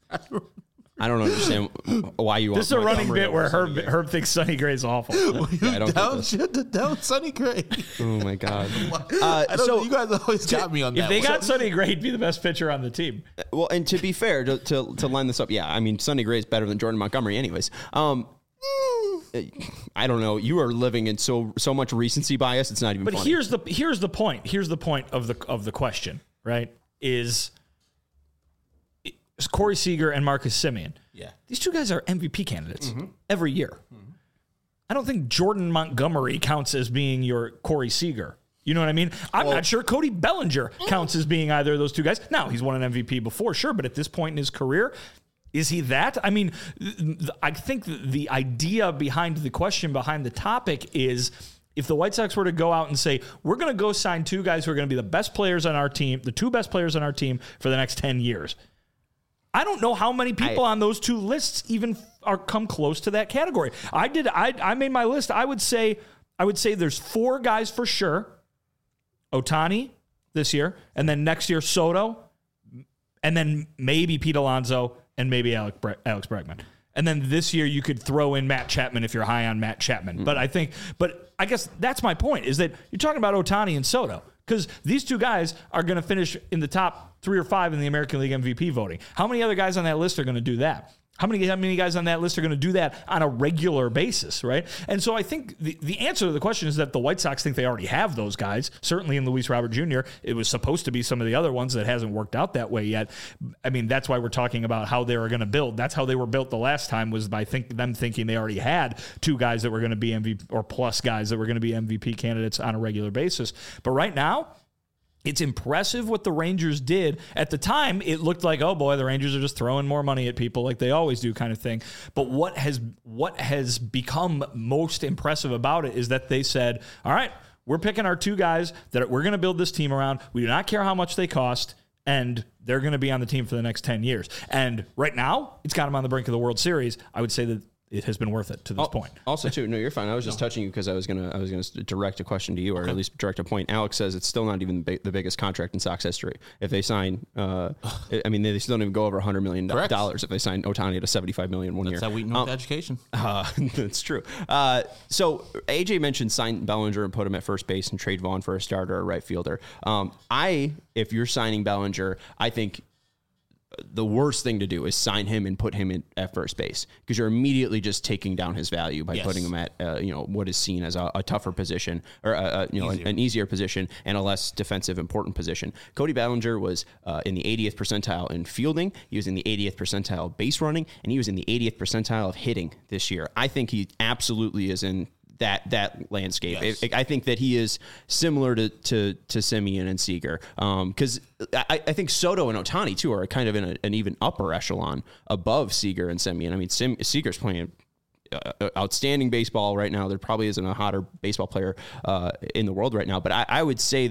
I don't understand why you. This is a want running Montgomery bit where over Herb Sonny Gray. Herb thinks Sonny Gray's awful. Yeah, I don't get this. Downshift down Sonny Gray. Oh my god. I don't so- know. You guys always got me on that If they one. got Sonny Gray, he'd be the best pitcher on the team. Well, and to be fair, to, to to line this up, yeah, I mean, Sonny Gray is better than Jordan Montgomery, anyways. Um, I don't know. You are living in so so much recency bias. It's not even. But funny. here's the here's the point. Here's the point of the of the question, right? Is, is Corey Seager and Marcus Semien. Yeah. These two guys are M V P candidates every year. I don't think Jordan Montgomery counts as being your Corey Seager. You know what I mean? I'm not sure Cody Bellinger counts as being either of those two guys. Now, he's won an M V P before, sure, but at this point in his career, is he that? I mean, th- th- I think th- the idea behind the question, behind the topic is if the White Sox were to go out and say, we're going to go sign two guys who are going to be the best players on our team, the two best players on our team for the next ten years. I don't know how many people I, on those two lists even are come close to that category. I did. I, I made my list. I would say, I would say there's four guys for sure. Ohtani this year, and then next year Soto, and then maybe Pete Alonso, and maybe Alex, Bre- Alex Bregman. And then this year you could throw in Matt Chapman if you're high on Matt Chapman. Mm-hmm. But I think, but I guess that's my point, is that you're talking about Ohtani and Soto, because these two guys are going to finish in the top three or five in the American League M V P voting. How many other guys on that list are going to do that? How many, how many guys on that list are going to do that on a regular basis, right? And so I think the, the answer to the question is that the White Sox think they already have those guys. Certainly in Luis Robert Junior, it was supposed to be some of the other ones that hasn't worked out that way yet. I mean, that's why we're talking about how they were going to build. That's how they were built the last time, was by think, them thinking they already had two guys that were going to be M V P, or plus guys that were going to be M V P candidates on a regular basis. But right now, it's impressive what the Rangers did. At the time, it looked like, oh boy, the Rangers are just throwing more money at people like they always do, kind of thing. But what has what has become most impressive about it is that they said, all right, we're picking our two guys that we're going to build this team around. We do not care how much they cost, and they're going to be on the team for the next ten years. And right now, it's got them on the brink of the World Series. I would say that it has been worth it to this point. Also, too, no, you're fine. I was just no. touching you because I was gonna, I was gonna direct a question to you, or okay. at least direct a point. Alex says it's still not even the, big, the biggest contract in Sox history. If they sign, uh, I mean, they still don't even go over one hundred million dollars if they sign Ohtani at a seventy-five million dollars one that's year. That's how we know um, education. Uh, that's true. Uh, so A J mentioned sign Bellinger and put him at first base and trade Vaughn for a starter or right fielder. Um, I, if you're signing Bellinger, I think the worst thing to do is sign him and put him in at first base, because you're immediately just taking down his value by yes. putting him at uh, you know what is seen as a, a tougher position, or uh, you know easier. An, an easier position and a less defensive important position. Cody Bellinger was uh, in the eightieth percentile in fielding. He was in the eightieth percentile base running, and he was in the eightieth percentile of hitting this year. I think he absolutely is in that that landscape. Yes. I, I think that he is similar to to, to Semien and Seager, because um, I, I think Soto and Ohtani too are kind of in a, an even upper echelon above Seager and Semien. I mean, Sem, Seager's playing uh, outstanding baseball right now. There probably isn't a hotter baseball player uh, in the world right now, but I, I would say that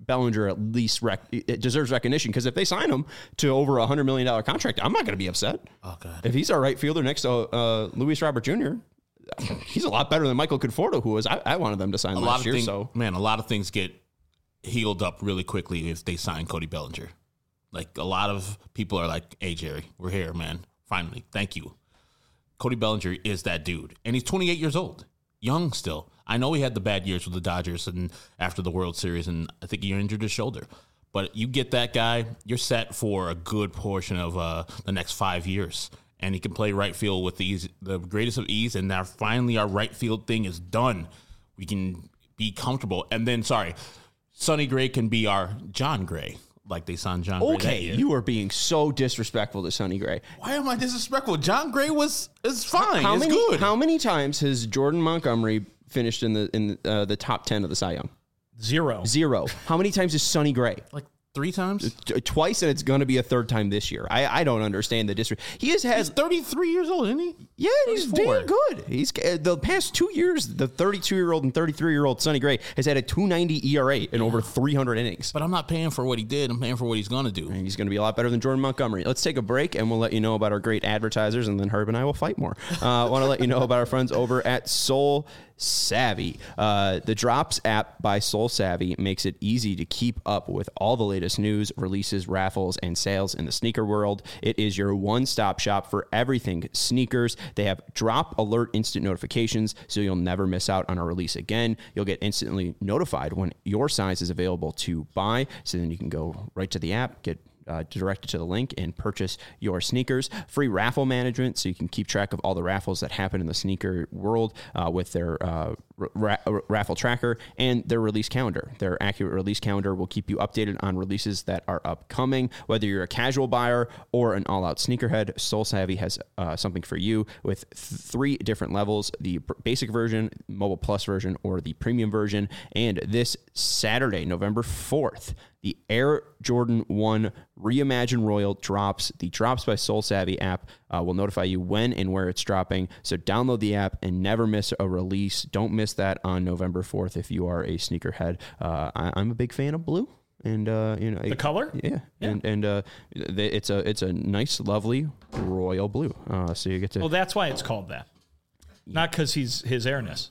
Bellinger at least rec- it deserves recognition, because if they sign him to over a hundred million dollar contract, I'm not going to be upset. Oh God! If he's our right fielder next to uh, Luis Robert Junior, he's a lot better than Michael Conforto, who was I, I wanted them to sign A last lot of year. things, So man, a lot of things get healed up really quickly if they sign Cody Bellinger. Like a lot of people are like, "Hey Jerry, we're here, man. Finally, thank you." Cody Bellinger is that dude, and he's twenty-eight years old, young still. I know he had the bad years with the Dodgers and after the World Series, and I think he injured his shoulder. But you get that guy, you're set for a good portion of uh, the next five years. And he can play right field with the, ease, the greatest of ease. And now finally our right field thing is done. We can be comfortable. And then, sorry, Sonny Gray can be our John Gray, like they signed John Gray that okay, year. you are being so disrespectful to Sonny Gray. Why am I disrespectful? John Gray was is fine. How it's many? good. How many times has Jordan Montgomery finished in the in uh, the top ten of the Cy Young? Zero. Zero. How many times is Sonny Gray? like three times? T- Twice, and it's going to be a third time this year. I, I don't understand the disrespect. He has He's has thirty-three years old, isn't he? yeah, he's thirty-four. damn good. He's uh, the past two years. The thirty-two year old and thirty-three year old Sonny Gray has had a two ninety E R A in over three hundred innings. But I'm not paying for what he did. I'm paying for what he's going to do. And he's going to be a lot better than Jordan Montgomery. Let's take a break, and we'll let you know about our great advertisers, and then Herb and I will fight more. I uh, want to let you know about our friends over at Soul Savvy. Uh, the Drops app by Soul Savvy makes it easy to keep up with all the latest news, releases, raffles, and sales in the sneaker world. It is your one-stop shop for everything sneakers. They have drop alert instant notifications, so you'll never miss out on a release again. You'll get instantly notified when your size is available to buy, so then you can go right to the app, get Uh, directed to the link, and purchase your sneakers. Free raffle management, so you can keep track of all the raffles that happen in the sneaker world uh, with their uh, ra- raffle tracker and their release calendar. Their accurate release calendar will keep you updated on releases that are upcoming. Whether you're a casual buyer or an all-out sneakerhead, Soul Savvy has uh, something for you with th- three different levels: the basic version, mobile plus version, or the premium version. And this Saturday, November fourth, the Air Jordan one Reimagine Royal drops. The Drops by Soul Savvy app uh, will notify you when and where it's dropping. So download the app and never miss a release. Don't miss that on November fourth if you are a sneakerhead. Uh, I, I'm a big fan of blue. And uh, you know The color? yeah, yeah. and and uh, th- it's a it's a nice, lovely royal blue. Uh, so you get to Well, that's why it's called that. Not because he's his airness.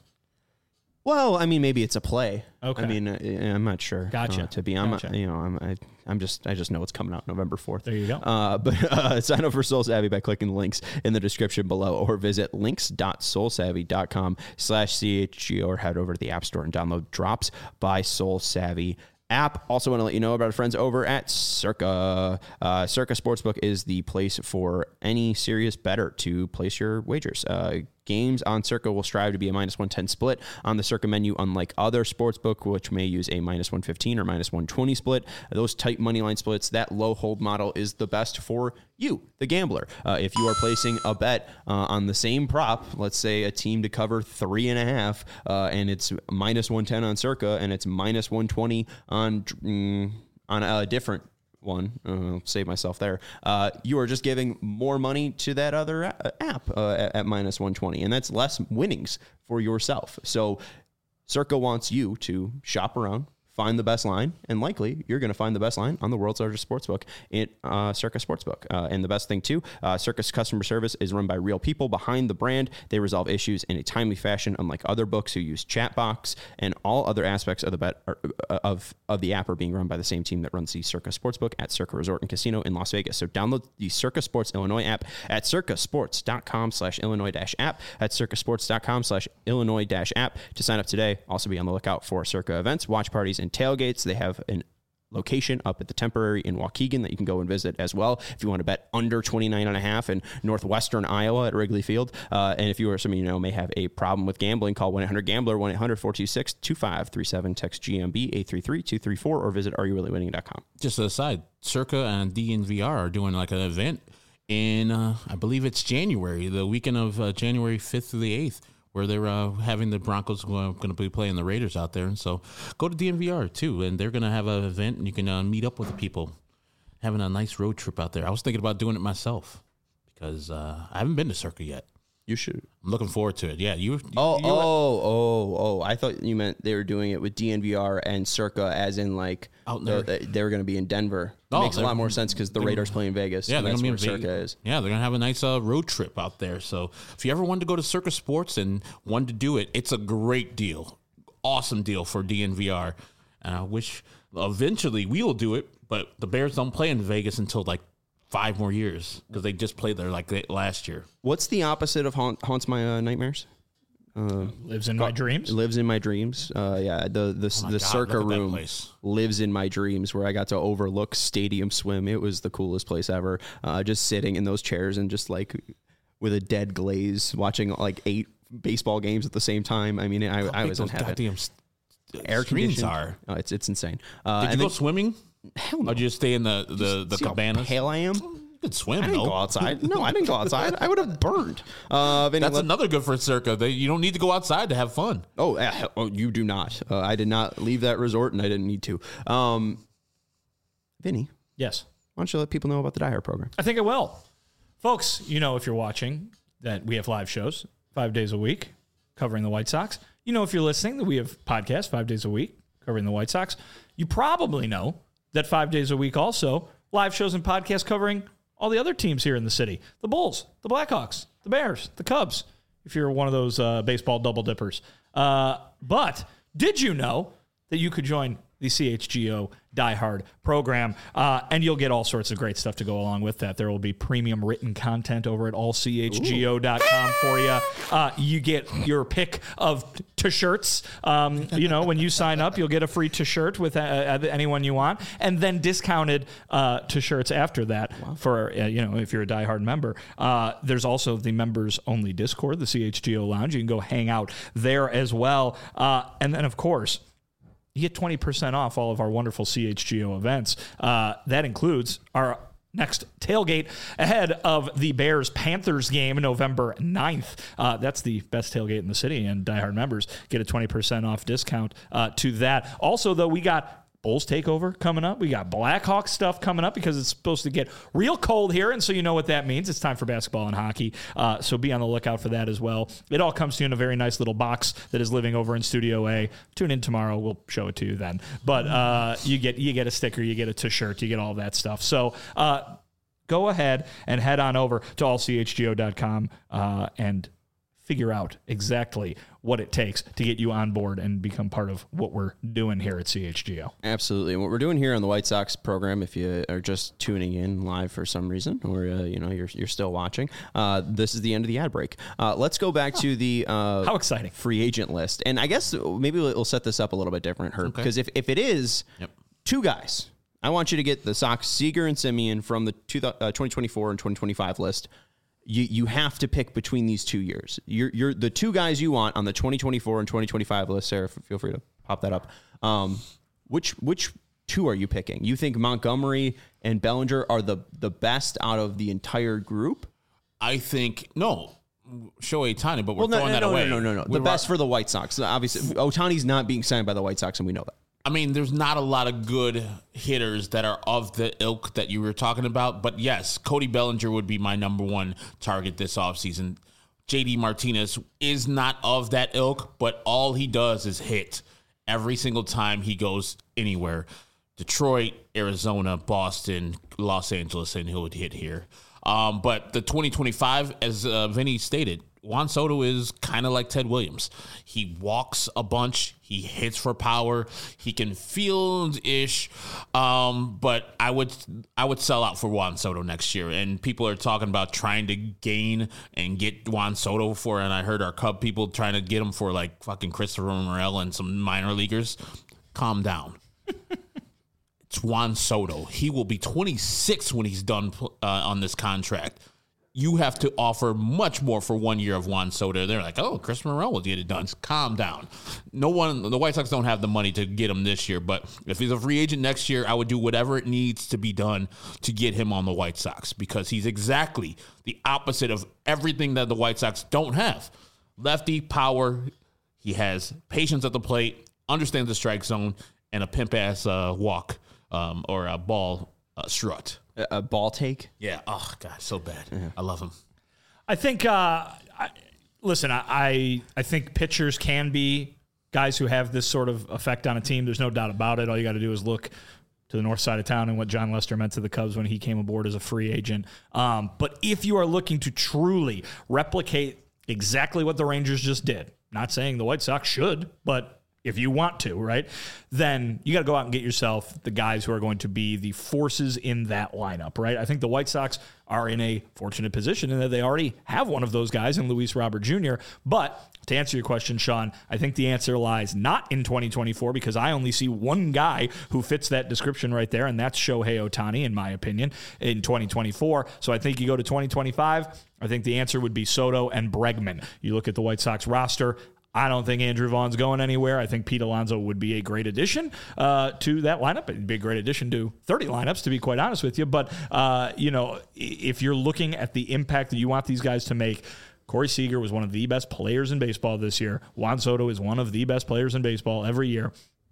Well, I mean, maybe it's a play. Okay. I mean, uh, I'm not sure. Gotcha. Uh, to be, I'm, Gotcha. you know, I'm, I, I'm just, I just know it's coming out November fourth. There you go. Uh, but uh, sign up for Soul Savvy by clicking the links in the description below, or visit links.soulsavvy.com slash CHG, or head over to the App Store and download Drops by Soul Savvy app. Also want to let you know about our friends over at Circa. Uh, Circa Sportsbook is the place for any serious bettor to place your wagers. Uh, Games on Circa will strive to be a minus one ten split on the Circa menu, unlike other sportsbook, which may use a minus one fifteen or minus one twenty split. Those tight money line splits, that low hold model is the best for you, the gambler. Uh, if you are placing a bet uh, on the same prop, let's say a team to cover three and a half, uh, and it's minus one ten on Circa, and it's minus one twenty on mm, on a different one, uh, save myself there. Uh, you are just giving more money to that other a- app uh, at, at minus one twenty, and that's less winnings for yourself. So Circa wants you to shop around, find the best line, and likely you're going to find the best line on the world's largest sportsbook, in uh, Circa Sportsbook. Uh, and the best thing too, uh, Circa's customer service is run by real people behind the brand. They resolve issues in a timely fashion, unlike other books who use chat box, and all other aspects of the bet are, uh, of of the app are being run by the same team that runs the Circa Sportsbook at Circa Resort and Casino in Las Vegas. So download the Circa Sports Illinois app at circasports.com slash Illinois dash app at circasports.com slash Illinois dash app to sign up today. Also be on the lookout for Circa events, watch parties, and tailgates. They have an location up at the Temporary in Waukegan that you can go and visit as well if you want to bet under twenty-nine and a half in northwestern Iowa at Wrigley Field. Uh, and if you or some of you know may have a problem with gambling, call one eight hundred gambler, one eight hundred four two six two five three seven, text G M B eight three three two three four, or visit are you really winning dot com. Just an aside, Circa and D N V R are doing like an event in, uh, I believe it's January, the weekend of uh, January fifth through the eighth, where they're uh, having the Broncos uh, going to be playing the Raiders out there. And so go to D N V R too, and they're going to have an event, and you can uh, meet up with the people, having a nice road trip out there. I was thinking about doing it myself because uh, I haven't been to Circa yet. You should. I'm looking forward to it. Yeah, you. you Oh, you, oh, oh, oh! I thought you meant they were doing it with D N V R and Circa, as in like Out the, there. they were going to be in Denver. It Oh, makes a they're- lot more sense because the they're- Raiders play in Vegas. Yeah, and they're that's gonna where be in Circa Vegas. is. Yeah, they're gonna have a nice uh, road trip out there. So if you ever wanted to go to Circa Sports and wanted to do it, it's a great deal, awesome deal for D N V R. And I wish eventually we will do it, but the Bears don't play in Vegas until like five more years because they just played there like they- last year. What's the opposite of haunt, haunts my uh, nightmares? Lives in my dreams. Lives in my dreams. Uh, yeah, the the Oh my the God, Circa look at that room place. lives in my dreams, where I got to overlook Stadium Swim. It was the coolest place ever. Uh, just sitting in those chairs and just like with a dead glaze, watching like eight baseball games at the same time. I mean, I, I Big was in those heaven. goddamn s- Air screens conditioned. are. Oh, it's it's insane. Uh, Did you and go then- swimming? Hell no. Or did you just stay in the the, the See how cabanas? pale I am? You could swim, I didn't though. go outside. No, I didn't go outside. I would have burned. Uh, Vinny, That's let- another good for Circa. They, you don't need to go outside to have fun. oh, uh, oh, you do not. Uh, I did not leave that resort, and I didn't need to. Um, Vinny, Yes. why don't you let people know about the Die Hard program? I think it will. Folks, you know, if you're watching, that we have live shows five days a week covering the White Sox. You know, if you're listening, that we have podcasts five days a week covering the White Sox. You probably know that five days a week also live shows and podcasts covering all the other teams here in the city. The Bulls, the Blackhawks, the Bears, the Cubs, if you're one of those uh, baseball double dippers. Uh, but did you know that you could join the C H G O Die Hard program, uh, and you'll get all sorts of great stuff to go along with that. There will be premium written content over at all c h g o dot com for you. Uh, you get your pick of t- t-shirts. Um, you know, when you sign up, you'll get a free t-shirt with uh, anyone you want, and then discounted uh, t-shirts after that for, uh, you know, if you're a Die Hard member. Uh, there's also the members only Discord, the C H G O Lounge. You can go hang out there as well. Uh, and then, of course, you get twenty percent off all of our wonderful C H G O events. Uh, that includes our next tailgate ahead of the Bears-Panthers game November ninth. Uh, that's the best tailgate in the city, and Die Hard members get a twenty percent off discount uh, to that. Also, though, we got Bulls takeover coming up. We got Blackhawks stuff coming up because it's supposed to get real cold here, and so you know what that means. It's time for basketball and hockey, uh, so be on the lookout for that as well. It all comes to you in a very nice little box that is living over in Studio A. Tune in tomorrow. We'll show it to you then. But uh, you get you get a sticker, you get a t-shirt, you get all that stuff. So uh, go ahead and head on over to all c h g o dot com uh, and figure out exactly what it takes to get you on board and become part of what we're doing here at C H G O. Absolutely. And what we're doing here on the White Sox program, if you are just tuning in live for some reason, or uh, you know you're you're still watching, uh, this is the end of the ad break. Uh, let's go back to the uh, How exciting. free agent list, and I guess maybe we'll set this up a little bit different, Herb, because if if it is Yep. two guys, I want you to get the Sox Seager and Simeon from the two, uh, twenty twenty-four and twenty twenty-five list. You you have to pick between these two years. You're you're the two guys you want on the twenty twenty-four and twenty twenty-five list. Sarah, feel free to pop that up. Um, which which two are you picking? You think Montgomery and Bellinger are the the best out of the entire group? I think no. Shohei Ohtani, but we're Well, no, throwing no, that no, away. no, no, no, no. We The were- best for the White Sox. Obviously, Ohtani's not being signed by the White Sox, and we know that. I mean, there's not a lot of good hitters that are of the ilk that you were talking about. But yes, Cody Bellinger would be my number one target this offseason. J D Martinez is not of that ilk, but all he does is hit every single time he goes anywhere. Detroit, Arizona, Boston, Los Angeles, and he'll hit here. Um, but the twenty twenty-five, as uh, Vinny stated, Juan Soto is kind of like Ted Williams. He walks a bunch. He hits for power. He can field-ish. Um, but I would I would sell out for Juan Soto next year. And people are talking about trying to gain and get Juan Soto for, and I heard our Cub people trying to get him for like fucking Christopher Morel and some minor leaguers. Calm down. It's Juan Soto. He will be twenty-six when he's done uh, on this contract. You have to offer much more for one year of Juan Soto. They're like, oh, Chris Morel will get it done. Calm down. No one, the White Sox don't have the money to get him this year, but if he's a free agent next year, I would do whatever it needs to be done to get him on the White Sox because he's exactly the opposite of everything that the White Sox don't have. Lefty, power. He has patience at the plate, understands the strike zone, and a pimp-ass uh, walk um, or a ball uh, strut. A, a ball take. Yeah. Oh, God, so bad. I love him. I think. Uh, I, listen, I, I I think pitchers can be guys who have this sort of effect on a team. There's no doubt about it. All you got to do is look to the north side of town and what John Lester meant to the Cubs when he came aboard as a free agent. Um, but if you are looking to truly replicate exactly what the Rangers just did, not saying the White Sox should, but if you want to, right, then you got to go out and get yourself the guys who are going to be the forces in that lineup, right? I think the White Sox are in a fortunate position in that they already have one of those guys in Luis Robert Junior But to answer your question, Sean, I think the answer lies not in twenty twenty-four because I only see one guy who fits that description right there, and that's Shohei Ohtani, in my opinion, in twenty twenty-four. So I think you go to twenty twenty-five, I think the answer would be Soto and Bregman. You look at the White Sox roster, I don't think Andrew Vaughn's going anywhere. I think Pete Alonso would be a great addition uh, to that lineup. It'd be a great addition to thirty lineups, to be quite honest with you. But, uh, you know, if you're looking at the impact that you want these guys to make, Corey Seager was one of the best players in baseball this year. Juan Soto is one of the best players in baseball every year.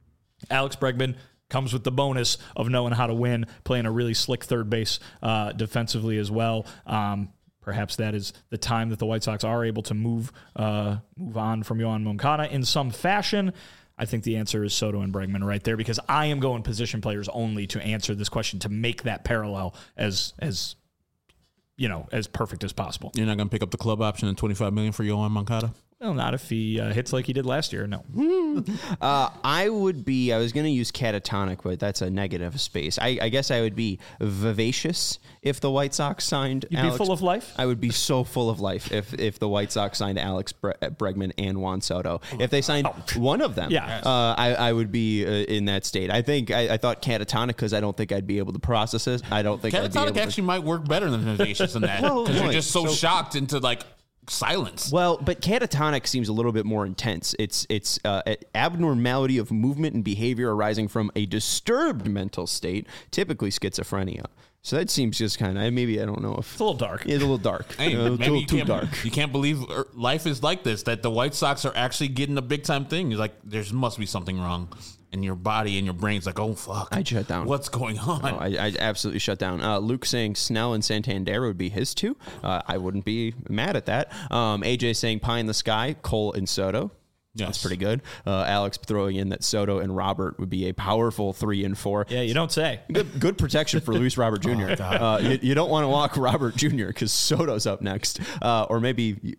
Alex Bregman comes with the bonus of knowing how to win, playing a really slick third base uh, defensively as well. Um, Perhaps that is the time that the White Sox are able to move uh, move on from Yoan Moncada in some fashion. I think the answer is Soto and Bregman right there because I am going position players only to answer this question to make that parallel as as you know as perfect as possible. You're not going to pick up the club option and twenty-five million dollars for Yoan Moncada? Well, not if he uh, hits like he did last year. No. uh, I would be, I was going to use catatonic, but that's a negative space. I, I guess I would be vivacious if the White Sox signed You'd Alex. be full of life? I would be so full of life if, if the White Sox signed Alex Bre- Bregman and Juan Soto. If they signed oh. one of them, yeah. uh, I, I would be uh, in that state. I think, I, I thought catatonic because I don't think I'd be able to process it. I don't think catatonic I'd be able actually to... might work better than vivacious than that because well, you're just so, so shocked into like silence. Well, but catatonic seems a little bit more intense. It's it's uh, an abnormality of movement and behavior arising from a disturbed mental state, typically schizophrenia. So that seems just kind of, maybe, I don't know if... It's a little dark. It's a little dark. Hey, uh, it's a maybe little you too can't, dark. You can't believe life is like this, that the White Sox are actually getting a big-time thing. It's like, there must be something wrong. And your body and your brain's like, oh, fuck. I'd shut down. What's going on? Oh, I, I absolutely shut down. Uh, Luke saying Snell and Santander would be his two. Uh, I wouldn't be mad at that. Um, A J saying Pie in the Sky, Cole and Soto. Yes. That's pretty good. Uh, Alex throwing in that Soto and Robert would be a powerful three and four. Yeah, you don't say. Good, good protection for Luis Robert Junior oh, uh, you, you don't want to walk Robert Junior because Soto's up next. Uh, or maybe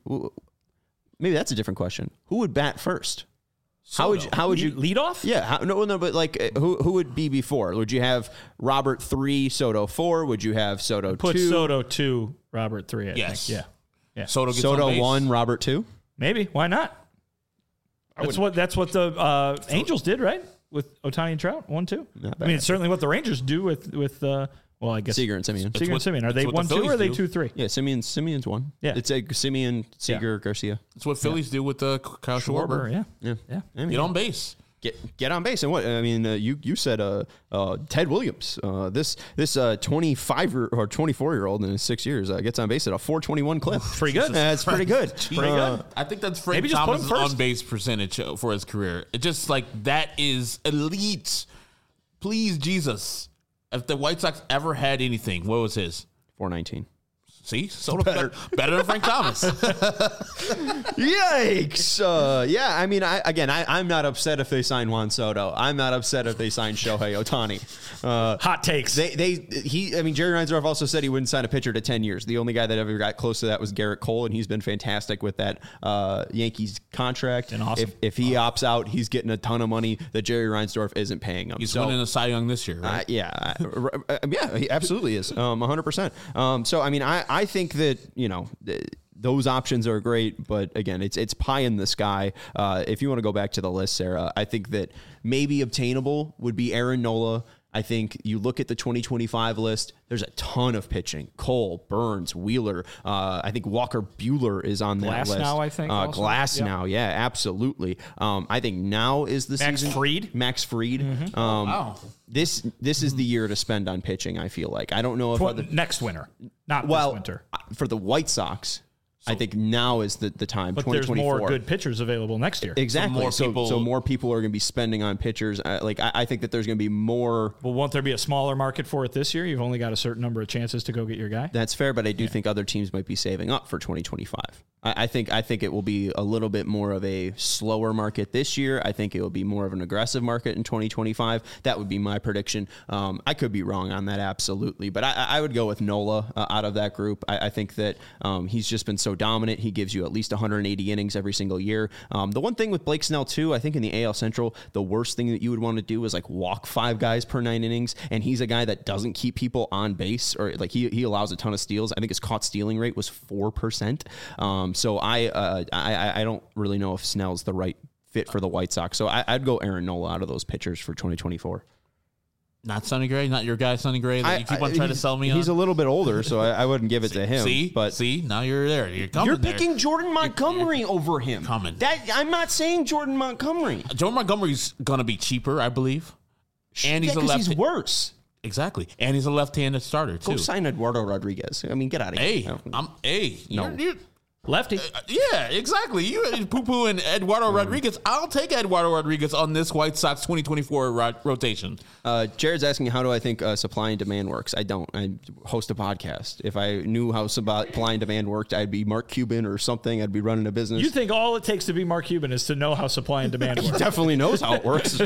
maybe that's a different question. Who would bat first? Soto. How would you, how would you lead off? Yeah, how, no, no, but like who who would be before? Would you have Robert three, Soto four? Would you have Soto Put two? Soto two, Robert three. I yes. think. Yeah. Yeah. Soto gets Soto on base. one, Robert two. Maybe. Why not? That's what that's what the uh, Angels did, right? With Ohtani and Trout, one two. I mean, it's certainly what the Rangers do with with. Uh, well, I guess Seager and Simeon. Seager and what- Simeon. Are it's they what one the two or are they Phillies two do. three? Yeah, Simeon. Simeon's one. Yeah. It's a Simeon, Seager, Garcia. That's what Phillies do with uh, Kyle Schwarber. Yeah. Yeah, Yeah. I mean, Get on base. Get get on base and what I mean. Uh, you you said uh, uh, Ted Williams. Uh, this this uh, twenty-five or twenty-four year old in his six years uh, gets on base at a four twenty-one clip. Pretty good. That's pretty good. Pretty good. I think that's Frank Maybe just put him Thomas' first. on base percentage uh, for his career. It just like that is elite. Please, Jesus. If the White Sox ever had anything, what was his? four nineteen. See, so better, better than Frank Thomas. Yikes! Uh, yeah, I mean, I, again, I, I'm not upset if they sign Juan Soto. I'm not upset if they sign Shohei Ohtani. Uh, Hot takes. They, they, he. I mean, Jerry Reinsdorf also said he wouldn't sign a pitcher to ten years. The only guy that ever got close to that was Garrett Cole, and he's been fantastic with that uh, Yankees contract. And awesome. If, if he opts out, he's getting a ton of money that Jerry Reinsdorf isn't paying him. He's So- winning a Cy Young this year, right? uh, yeah, uh, uh, yeah, he absolutely is, um, one hundred percent. Um, so, I mean, I, I think that, you know, th- those options are great, but again, it's it's pie in the sky. Uh, if you want to go back to the list, Sarah, I think that maybe obtainable would be Aaron Nola. I think you look at the twenty twenty-five list, there's a ton of pitching. Cole, Burns, Wheeler. Uh, I think Walker Buehler is on that list. Glasnow, I think, Uh, also. Glasnow, yeah, absolutely. Um, I think now is the Max season. Fried? Max Fried. Mm-hmm. Um, Wow. This this is the year to spend on pitching, I feel like. I don't know if Tw- other, next winter, not well, this winter. uh, for the White Sox, I think now is the, the time. But there's more good pitchers available next year. Exactly. So more So, people- so more people are going to be spending on pitchers. Uh, like I, I think that there's going to be more. Well, won't there be a smaller market for it this year? You've only got a certain number of chances to go get your guy. That's fair, but I do think other teams might be saving up for twenty twenty-five. I, I think I think it will be a little bit more of a slower market this year. I think it will be more of an aggressive market in twenty twenty-five. That would be my prediction. Um, I could be wrong on that, absolutely, but I, I would go with Nola uh, out of that group. I, I think that um, he's just been so dominant. He gives you at least one hundred eighty innings every single year. Um, the one thing with Blake Snell too, I think in the A L Central, the worst thing that you would want to do is like walk five guys per nine innings, and he's a guy that doesn't keep people on base, or like he he allows a ton of steals. I think his caught stealing rate was four percent. Um, so I, uh, I I don't really know if Snell's the right fit for the White Sox. So I, I'd go Aaron Nola out of those pitchers for twenty twenty-four. Not Sonny Gray, not your guy Sonny Gray that you keep on trying to sell me on. He's a little bit older, so I, I wouldn't give it to him. See, but see, now you're there. You're coming. you're there. picking Jordan Montgomery over him. Coming. That I'm not saying Jordan Montgomery. Joe Montgomery's gonna be cheaper, I believe, and he's yeah, a 'cause left. he's worse. Exactly, and he's a left-handed starter too. Go sign Eduardo Rodriguez. I mean, get out of Hey, here. I'm hey. No. You're, you're, Lefty. uh, yeah, exactly. You poo poo and Eduardo Rodriguez. I'll take Eduardo Rodriguez on this White Sox twenty twenty-four ro- rotation. Uh, Jared's asking, how do I think uh, supply and demand works? I don't. I host a podcast. If I knew how supply and demand worked, I'd be Mark Cuban or something. I'd be running a business. You think all it takes to be Mark Cuban is to know how supply and demand work? Definitely knows how it works.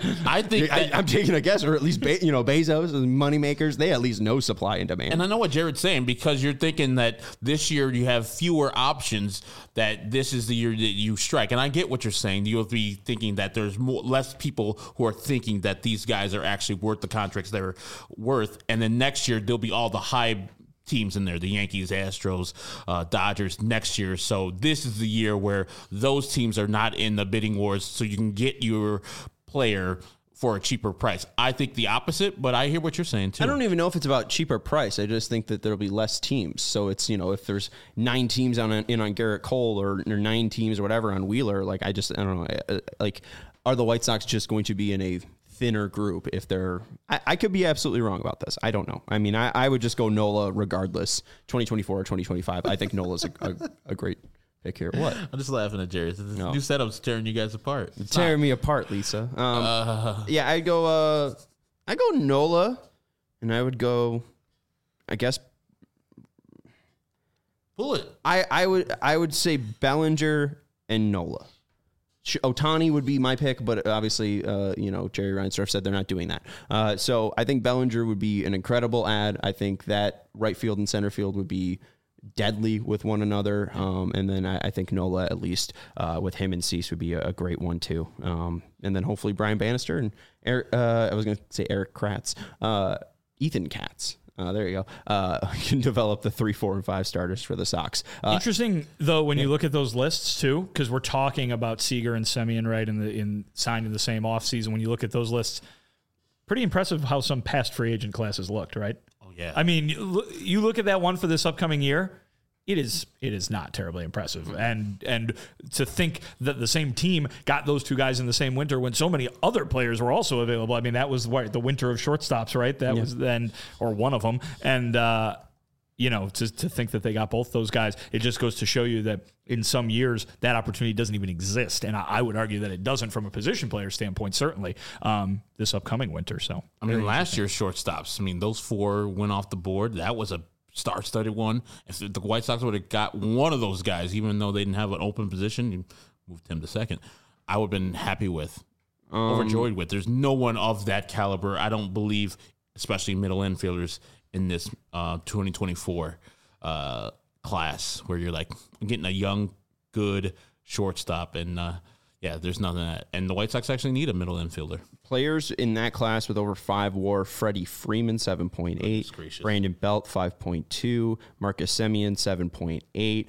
I think I, that, I'm taking a guess, or at least Be- you know Bezos and moneymakers. They at least know supply and demand. and I know what Jared's saying because you're thinking that this year you have fewer options. That this is the year that you strike, and I get what you're saying. You'll be thinking that there's more, less people who are thinking that these guys are actually worth the contracts they're worth, and then next year there'll be all the high teams in there, the Yankees, Astros, uh, Dodgers next year. So this is the year where those teams are not in the bidding wars, so you can get your player for a cheaper price. I think the opposite, but I hear what you're saying too. I don't even know if it's about cheaper price. I just think that there'll be less teams. So it's, you know, if there's nine teams on in on Garrett Cole or, or nine teams or whatever on Wheeler, like I just, I don't know, like are the White Sox just going to be in a thinner group if they're, I, I could be absolutely wrong about this. I don't know. I mean, I, I would just go Nola regardless, twenty twenty-four or twenty twenty-five. I think Nola's a, a, a great pick here. What? I'm just laughing at Jared. This No. new setup's tearing you guys apart. It's Tearing not. me apart, Lisa. Um, Uh, yeah, I go, uh, I go Nola, and I would go, I guess, pull it. I, I would I would say Bellinger and Nola. Sh- Ohtani would be my pick, but obviously, uh, you know, Jerry Reinsdorf said they're not doing that. Uh, so I think Bellinger would be an incredible ad. I think that right field and center field would be deadly with one another. Um, and then I, I think Nola, at least uh, with him and Cease, would be a, a great one too. Um, and then hopefully Brian Bannister and Eric, uh, I was going to say Eric Kratz, uh, Ethan Katz. Uh, there you go. Uh, can develop the three, four, and five starters for the Sox. Uh, Interesting though when you look at those lists too, because we're talking about Seager and Semien right in the in signed in the same offseason. When you look at those lists, pretty impressive how some past free agent classes looked, right? Oh yeah. I mean, you look, you look at that one for this upcoming year. It is it is not terribly impressive, and and to think that the same team got those two guys in the same winter when so many other players were also available. I mean, that was what, the winter of shortstops, right? That Yeah. was then, or one of them, and uh, you know, to to think that they got both those guys, it just goes to show you that in some years that opportunity doesn't even exist, and I, I would argue that it doesn't from a position player standpoint, certainly um, this upcoming winter. So I mean, last year's shortstops. I mean, those four went off the board. That was a star-studded one. If the White Sox would have got one of those guys, even though they didn't have an open position, you moved him to second, I would have been happy with, um, overjoyed with. There's no one of that caliber, I don't believe, especially middle infielders in this uh, twenty twenty-four uh, class, where you're like getting a young, good shortstop, and uh, yeah, there's nothing that. And the White Sox actually need a middle infielder. Players in that class with over five WAR: Freddie Freeman, seven point eight; Brandon Belt, five point two; Marcus Semien, seven point eight.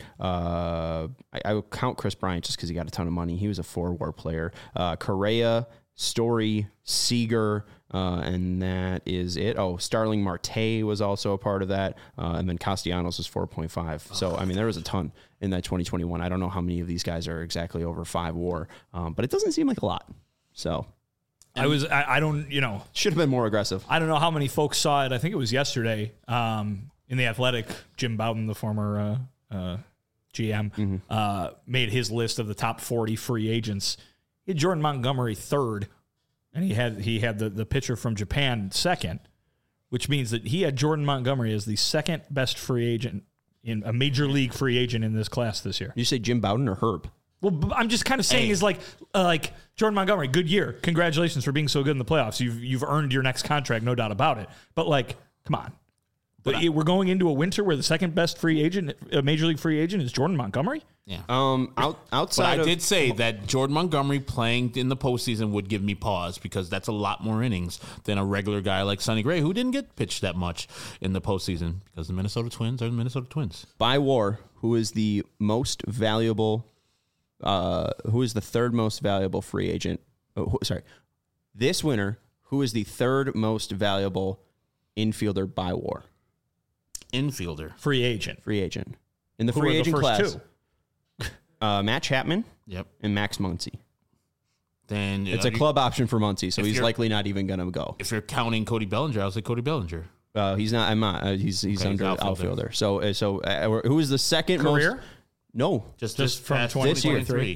Uh, I, I would count Chris Bryant just because he got a ton of money. He was a four WAR player. Uh, Correa, Story, Seager, uh, and that is it. Oh, Starling Marte was also a part of that, uh, and then Castellanos was four point five. So, I mean, there was a ton in that twenty twenty-one. I don't know how many of these guys are exactly over five WAR, um, but it doesn't seem like a lot. So... I was I, I don't you know should have been more aggressive. I don't know how many folks saw it. I think it was yesterday um, in the Athletic. Jim Bowden, the former uh, uh, G M, mm-hmm. uh, made his list of the top forty free agents. He had Jordan Montgomery third, and he had he had the, the pitcher from Japan second, which means that he had Jordan Montgomery as the second best free agent in a major league free agent in this class this year. Did you say Jim Bowden or Herb? Well, I'm just kind of saying hey. is like uh, like Jordan Montgomery, good year. Congratulations for being so good in the playoffs. You've you've earned your next contract, no doubt about it. But like, come on. But I, we're going into a winter where the second best free agent, a major league free agent, is Jordan Montgomery. Yeah. Um. Out, outside. But I of, did say that Jordan Montgomery playing in the postseason would give me pause because that's a lot more innings than a regular guy like Sonny Gray, who didn't get pitched that much in the postseason because the Minnesota Twins are the Minnesota Twins. By WAR, who is the most valuable? Uh, who is the third most valuable free agent? Oh, who, sorry, this winter, who is the third most valuable infielder by WAR? Infielder. Free agent. Free agent. In the Who free are the agent first class, two? uh, Matt Chapman Yep. and Max Muncy. Then It's uh, a club option for Muncy, so if he's you're- likely not even going to go. If you're counting Cody Bellinger, I'll say Cody Bellinger. Uh, he's not. I'm not. Uh, he's he's Okay, under he's outfielder. outfielder. So uh, so uh, who is the second Career? most? No, Just, Just just from past twenty twenty-three.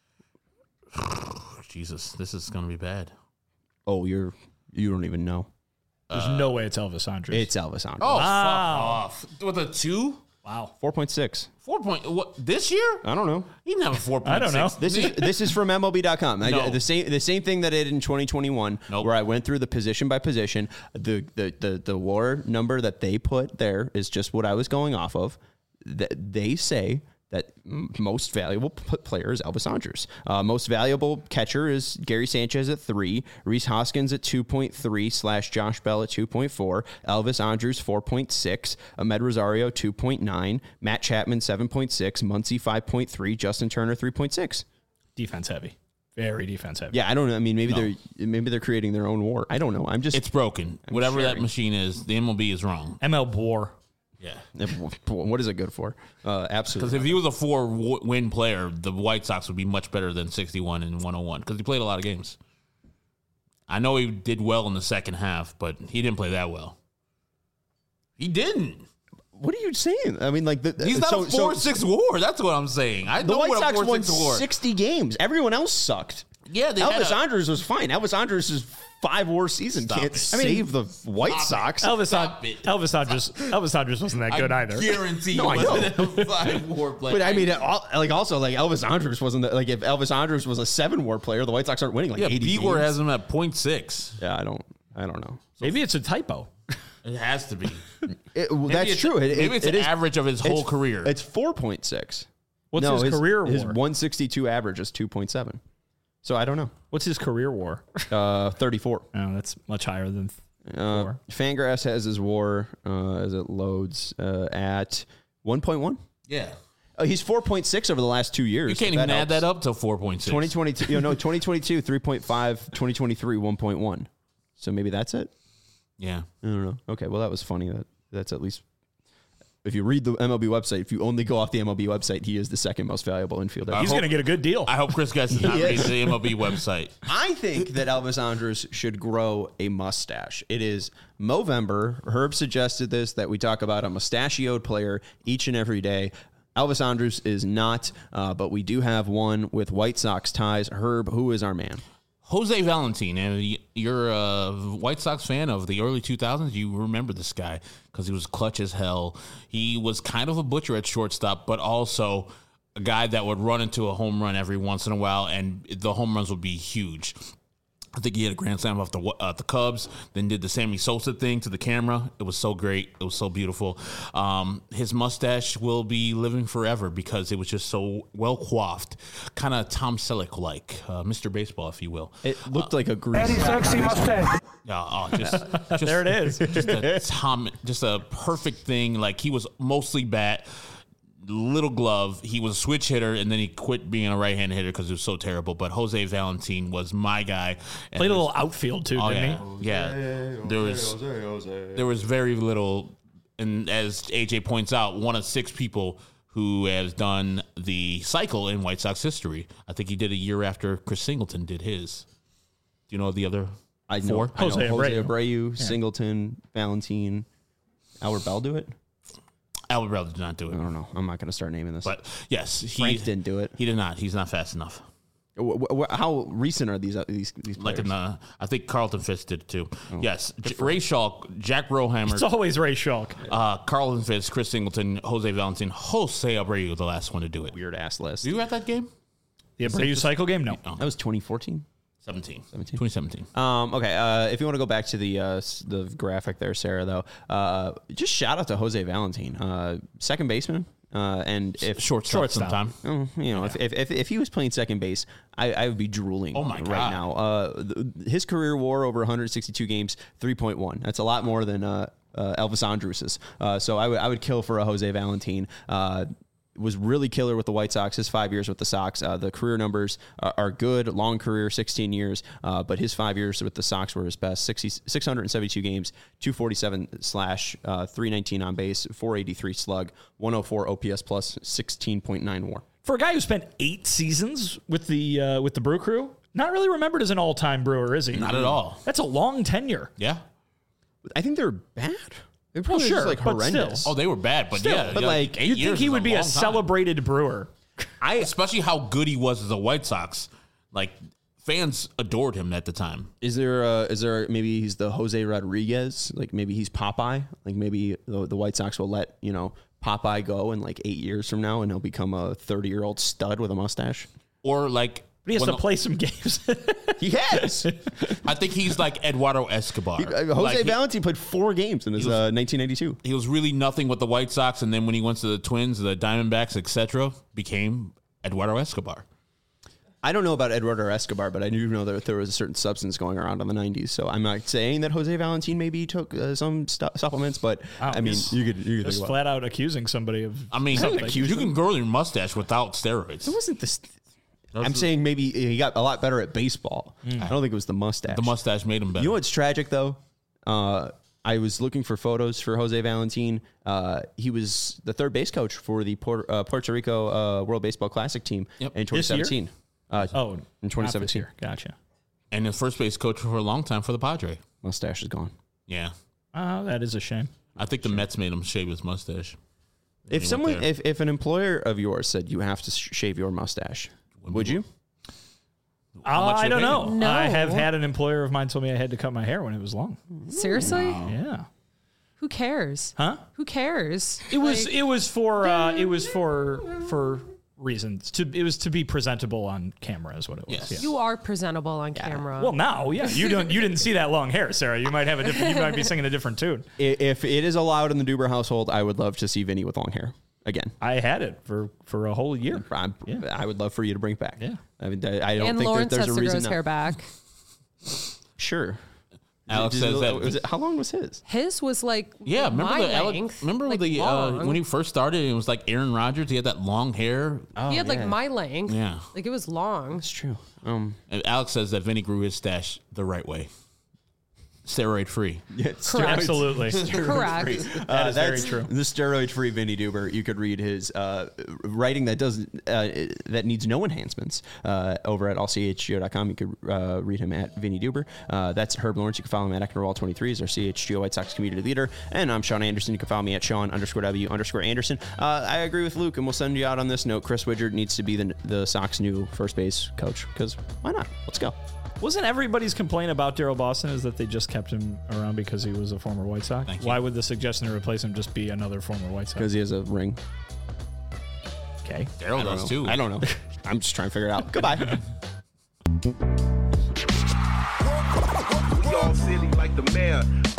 Jesus, this is going to be bad. oh, you're you don't even know. There's no way it's Elvis Andrus. It's Elvis Andrus. Oh, Wow. fuck off. With a two? wow. four point six. Four point, what, this year? I don't know. He didn't have a four point six. I don't know. This is this is from M L B dot com. I- No. the same the same thing that I did in twenty twenty-one, Nope. where I went through the position by position. The the the the WAR number that they put there is just what I was going off of. That they say that m- most valuable p- player is Elvis Andrus. Uh, most valuable catcher is Gary Sanchez at three, Rhys Hoskins at two point three slash Josh Bell at two point four, Elvis Andrus four point six, Ahmed Rosario two point nine, Matt Chapman seven point six, Muncy five point three, Justin Turner three point six. Defense heavy. Very defense heavy. Yeah, I don't know. I mean, maybe they're maybe they're creating their own war. I don't know. I'm just It's broken. Whatever that sharing. machine is, the M L B is wrong. M L War. Yeah. what is it good for? Uh, Because absolutely. if he was a four-win player, the White Sox would be much better than sixty-one and one oh one because he played a lot of games. I know he did well in the second half, but he didn't play that well. He didn't. What are you saying? I mean, like the, He's not so, a four six war. That's what I'm saying. I the know White what a Sox four won six war. sixty games. Everyone else sucked. Yeah, they had Elvis a- Andrus was fine. Elvis Andrus' five war season Stop can't it. save the White Sox. Elvis, Stop An- it. Elvis Andrus. Elvis Andrus wasn't that good I either. guarantee No, I he know. wasn't a five war player. But I mean, all, like also like Elvis Andrus wasn't the, like if Elvis Andrus was a seven war player, the White Sox aren't winning like yeah, eighty Bigor games. has him at point six. Yeah, I don't. I don't know. Maybe it's a typo. It has to be. It, well, Maybe that's it's- true. It, maybe it, it's it an is- average of his whole it's- career. It's four point six. What's no, his, career war? His one sixty-two average is two point seven. So I don't know. What's his career war? Uh, thirty-four. Oh, that's much higher than Uh, four. Fangraphs has his war uh, as it loads uh, at one point one. Yeah. Uh, he's four point six over the last two years. You can't if even add that helps. up to four point six. twenty twenty-two, you know, twenty twenty-two, three point five, twenty twenty-three, one point one. So maybe that's it? Yeah. I don't know. Okay, well, that was funny. That That's at least, if you read the M L B website, if you only go off the M L B website, he is the second most valuable infielder. I He's hope- going to get a good deal. I hope Chris Guest does not He read is. the M L B website. I think that Elvis Andrus should grow a mustache. It is Movember. Herb suggested this, that we talk about a mustachioed player each and every day. Elvis Andrus is not, uh, but we do have one with White Sox ties. Herb, who is our man? Jose Valentin, and y- you're a White Sox fan of the early two thousands. You remember this guy because he was clutch as hell. He was kind of a butcher at shortstop, but also a guy that would run into a home run every once in a while, and the home runs would be huge. I think he had a grand slam off the uh, the Cubs, then did the Sammy Sosa thing to the camera. It was so great. It was so beautiful. Um, his mustache will be living forever because it was just so well coiffed, kind of Tom Selleck-like, uh, Mister Baseball, if you will. It looked like a grease. Sexy mustache. Yeah, oh, just, just There it is. Just a Tom, just a perfect thing. Like he was mostly bat. Little glove. He was a switch hitter, and then he quit being a right-hand hitter because it was so terrible. But Jose Valentin was my guy. And Played a there's- little outfield too, Oh didn't yeah, he? yeah. There was there was very little, and as A J points out, one of six people who has done the cycle in White Sox history. I think he did a year after Chris Singleton did his. Do you know the other I know, four? I know Jose Jose Abreu. Abreu, Singleton, Valentin, Albert Bell do it? Alvarado did not do it. I don't know. I'm not going to start naming this. But yes, he Frank didn't do it. He did not. He's not fast enough. Wh- wh- how recent are these uh, these these players? Like in the, I think Carlton Fitz did it too. Yes, J- Ray Schalk, Jack Brohammer, It's always Ray Schalk. uh, Carlton Fitz, Chris Singleton, Jose Valentin, Jose Abreu, the last one to do it. Weird ass list. Were you at that game? The Abreu cycle game? No. That was twenty fourteen. seventeen. twenty seventeen. Um, okay, uh, if you want to go back to the uh, s- the graphic there, Sarah, though, uh, just shout out to Jose Valentin, uh, second baseman. Uh, and if Shortstop, Shortstop. sometime. Oh, you know, if, if, if if he was playing second base, I, I would be drooling. Oh my right God. now. Uh, th- his career WAR over one hundred sixty-two games, three point one. That's a lot more than uh, uh, Elvis Andrus's. Uh, so I would I would kill for a Jose Valentin. Uh, was really killer with the White Sox. His five years with the Sox, uh, the career numbers are, are good. Long career, sixteen years. Uh, but his five years with the Sox were his best. sixty, six hundred seventy-two games, two forty-seven slash, uh, three nineteen on base, four eighty-three slug, one oh four O P S plus, sixteen point nine WAR. For a guy who spent eight seasons with the uh, with the Brew Crew, not really remembered as an all-time Brewer, is he? Not at all. That's a long tenure. Yeah. I think they're bad. They're probably sure, just like but horrendous. still. Oh, they were bad, but Still, yeah. but yeah, like, eight You'd years think he is would be a long time. celebrated Brewer. I especially how good he was as a White Sox. Like fans adored him at the time. Is there uh is there maybe he's the Jose Rodriguez? Like maybe he's Popeye? Like maybe the, the White Sox will let, you know, Popeye go in like eight years from now and he'll become a thirty-year-old stud with a mustache? Or like But he has when to the- play some games. He has. I think he's like Eduardo Escobar. Uh, Jose Like, he- Valentin played four games in his was- uh, nineteen ninety-two. he was really nothing with the White Sox, and then when he went to the Twins, the Diamondbacks, et cetera, became Eduardo Escobar. I don't know about Eduardo Escobar, but I do know that there was a certain substance going around in the nineties. So I'm not saying that Jose Valentin maybe took uh, some stu- supplements, but Wow, I mean, he's- you could you could Just think about flat out accusing somebody of. I mean, something. you can grow your mustache without steroids. it. Wasn't this? That's I'm the- saying maybe he got a lot better at baseball. I don't think it was the mustache. The mustache made him better. You know what's tragic though? Uh, I was looking for photos for Jose Valentin. Uh, he was the third base coach for the Puerto, uh, Puerto Rico uh, World Baseball Classic team Yep. in twenty seventeen. Uh, Oh, in not this twenty seventeen. year. Gotcha. and the first base coach for a long time for the Padre. Mustache is gone. Yeah. Oh, that is a shame. I think the Mets made him shave his mustache. If went someone, there. if, if an employer of yours said you have to sh- shave your mustache, would you? Uh, much I they don't pay know. you? No. I have had an employer of mine told me I had to cut my hair when it was long. Seriously? Yeah. Who cares? Huh? Who cares? It was. Like, It was for. Uh, it was for for reasons. To. It was to be presentable on camera. Is what it was. Yes. Yeah. you are presentable on camera. Well, now, yeah, you don't. You didn't see that long hair, Sarah. You might have a different. You might be singing a different tune. I- If it is allowed in the Duber household, I would love to see Vinny with long hair again. I had it for for a whole year. I'm, Yeah. I would love for you to bring it back. Yeah. I mean, I I don't and think Lawrence that there's has a to grow reason. his not- hair back. Sure. Alex Did- says did- that. was it- how long was his? His was like Yeah, remember my the Alex, length, remember like the uh, long. when he first started? It was like Aaron Rodgers. He had that long hair. he had like yeah. my length. Yeah. like it was long. It's true. Um, And Alex says that Vinny grew his stash the right way, steroid free. yeah, Correct. Absolutely. Correct. Uh, is very that's true. The steroid-free Vinny Duber. You could read his uh, writing that doesn't uh, that needs no enhancements uh, over at all c h g o dot com. You could uh, read him at Vinny Duber. Uh, that's Herb Lawrence. You can follow him at Ecknerwall twenty-three. He's our C H G O White Sox community leader. And I'm Sean Anderson. You can follow me at Sean underscore W underscore Anderson. Uh, I agree with Luke, and we'll send you out on this note. Chris Widgert needs to be the the Sox new first base coach because why not? Let's go. Wasn't everybody's complaint about Daryl Boston is that they just kept him around because he was a former White Sox? Thank you. Why would the suggestion to replace him just be another former White Sox? Because he has a ring. Okay. Daryl does know. too. I don't know. I'm just trying to figure it out. Goodbye. We all silly like the mayor.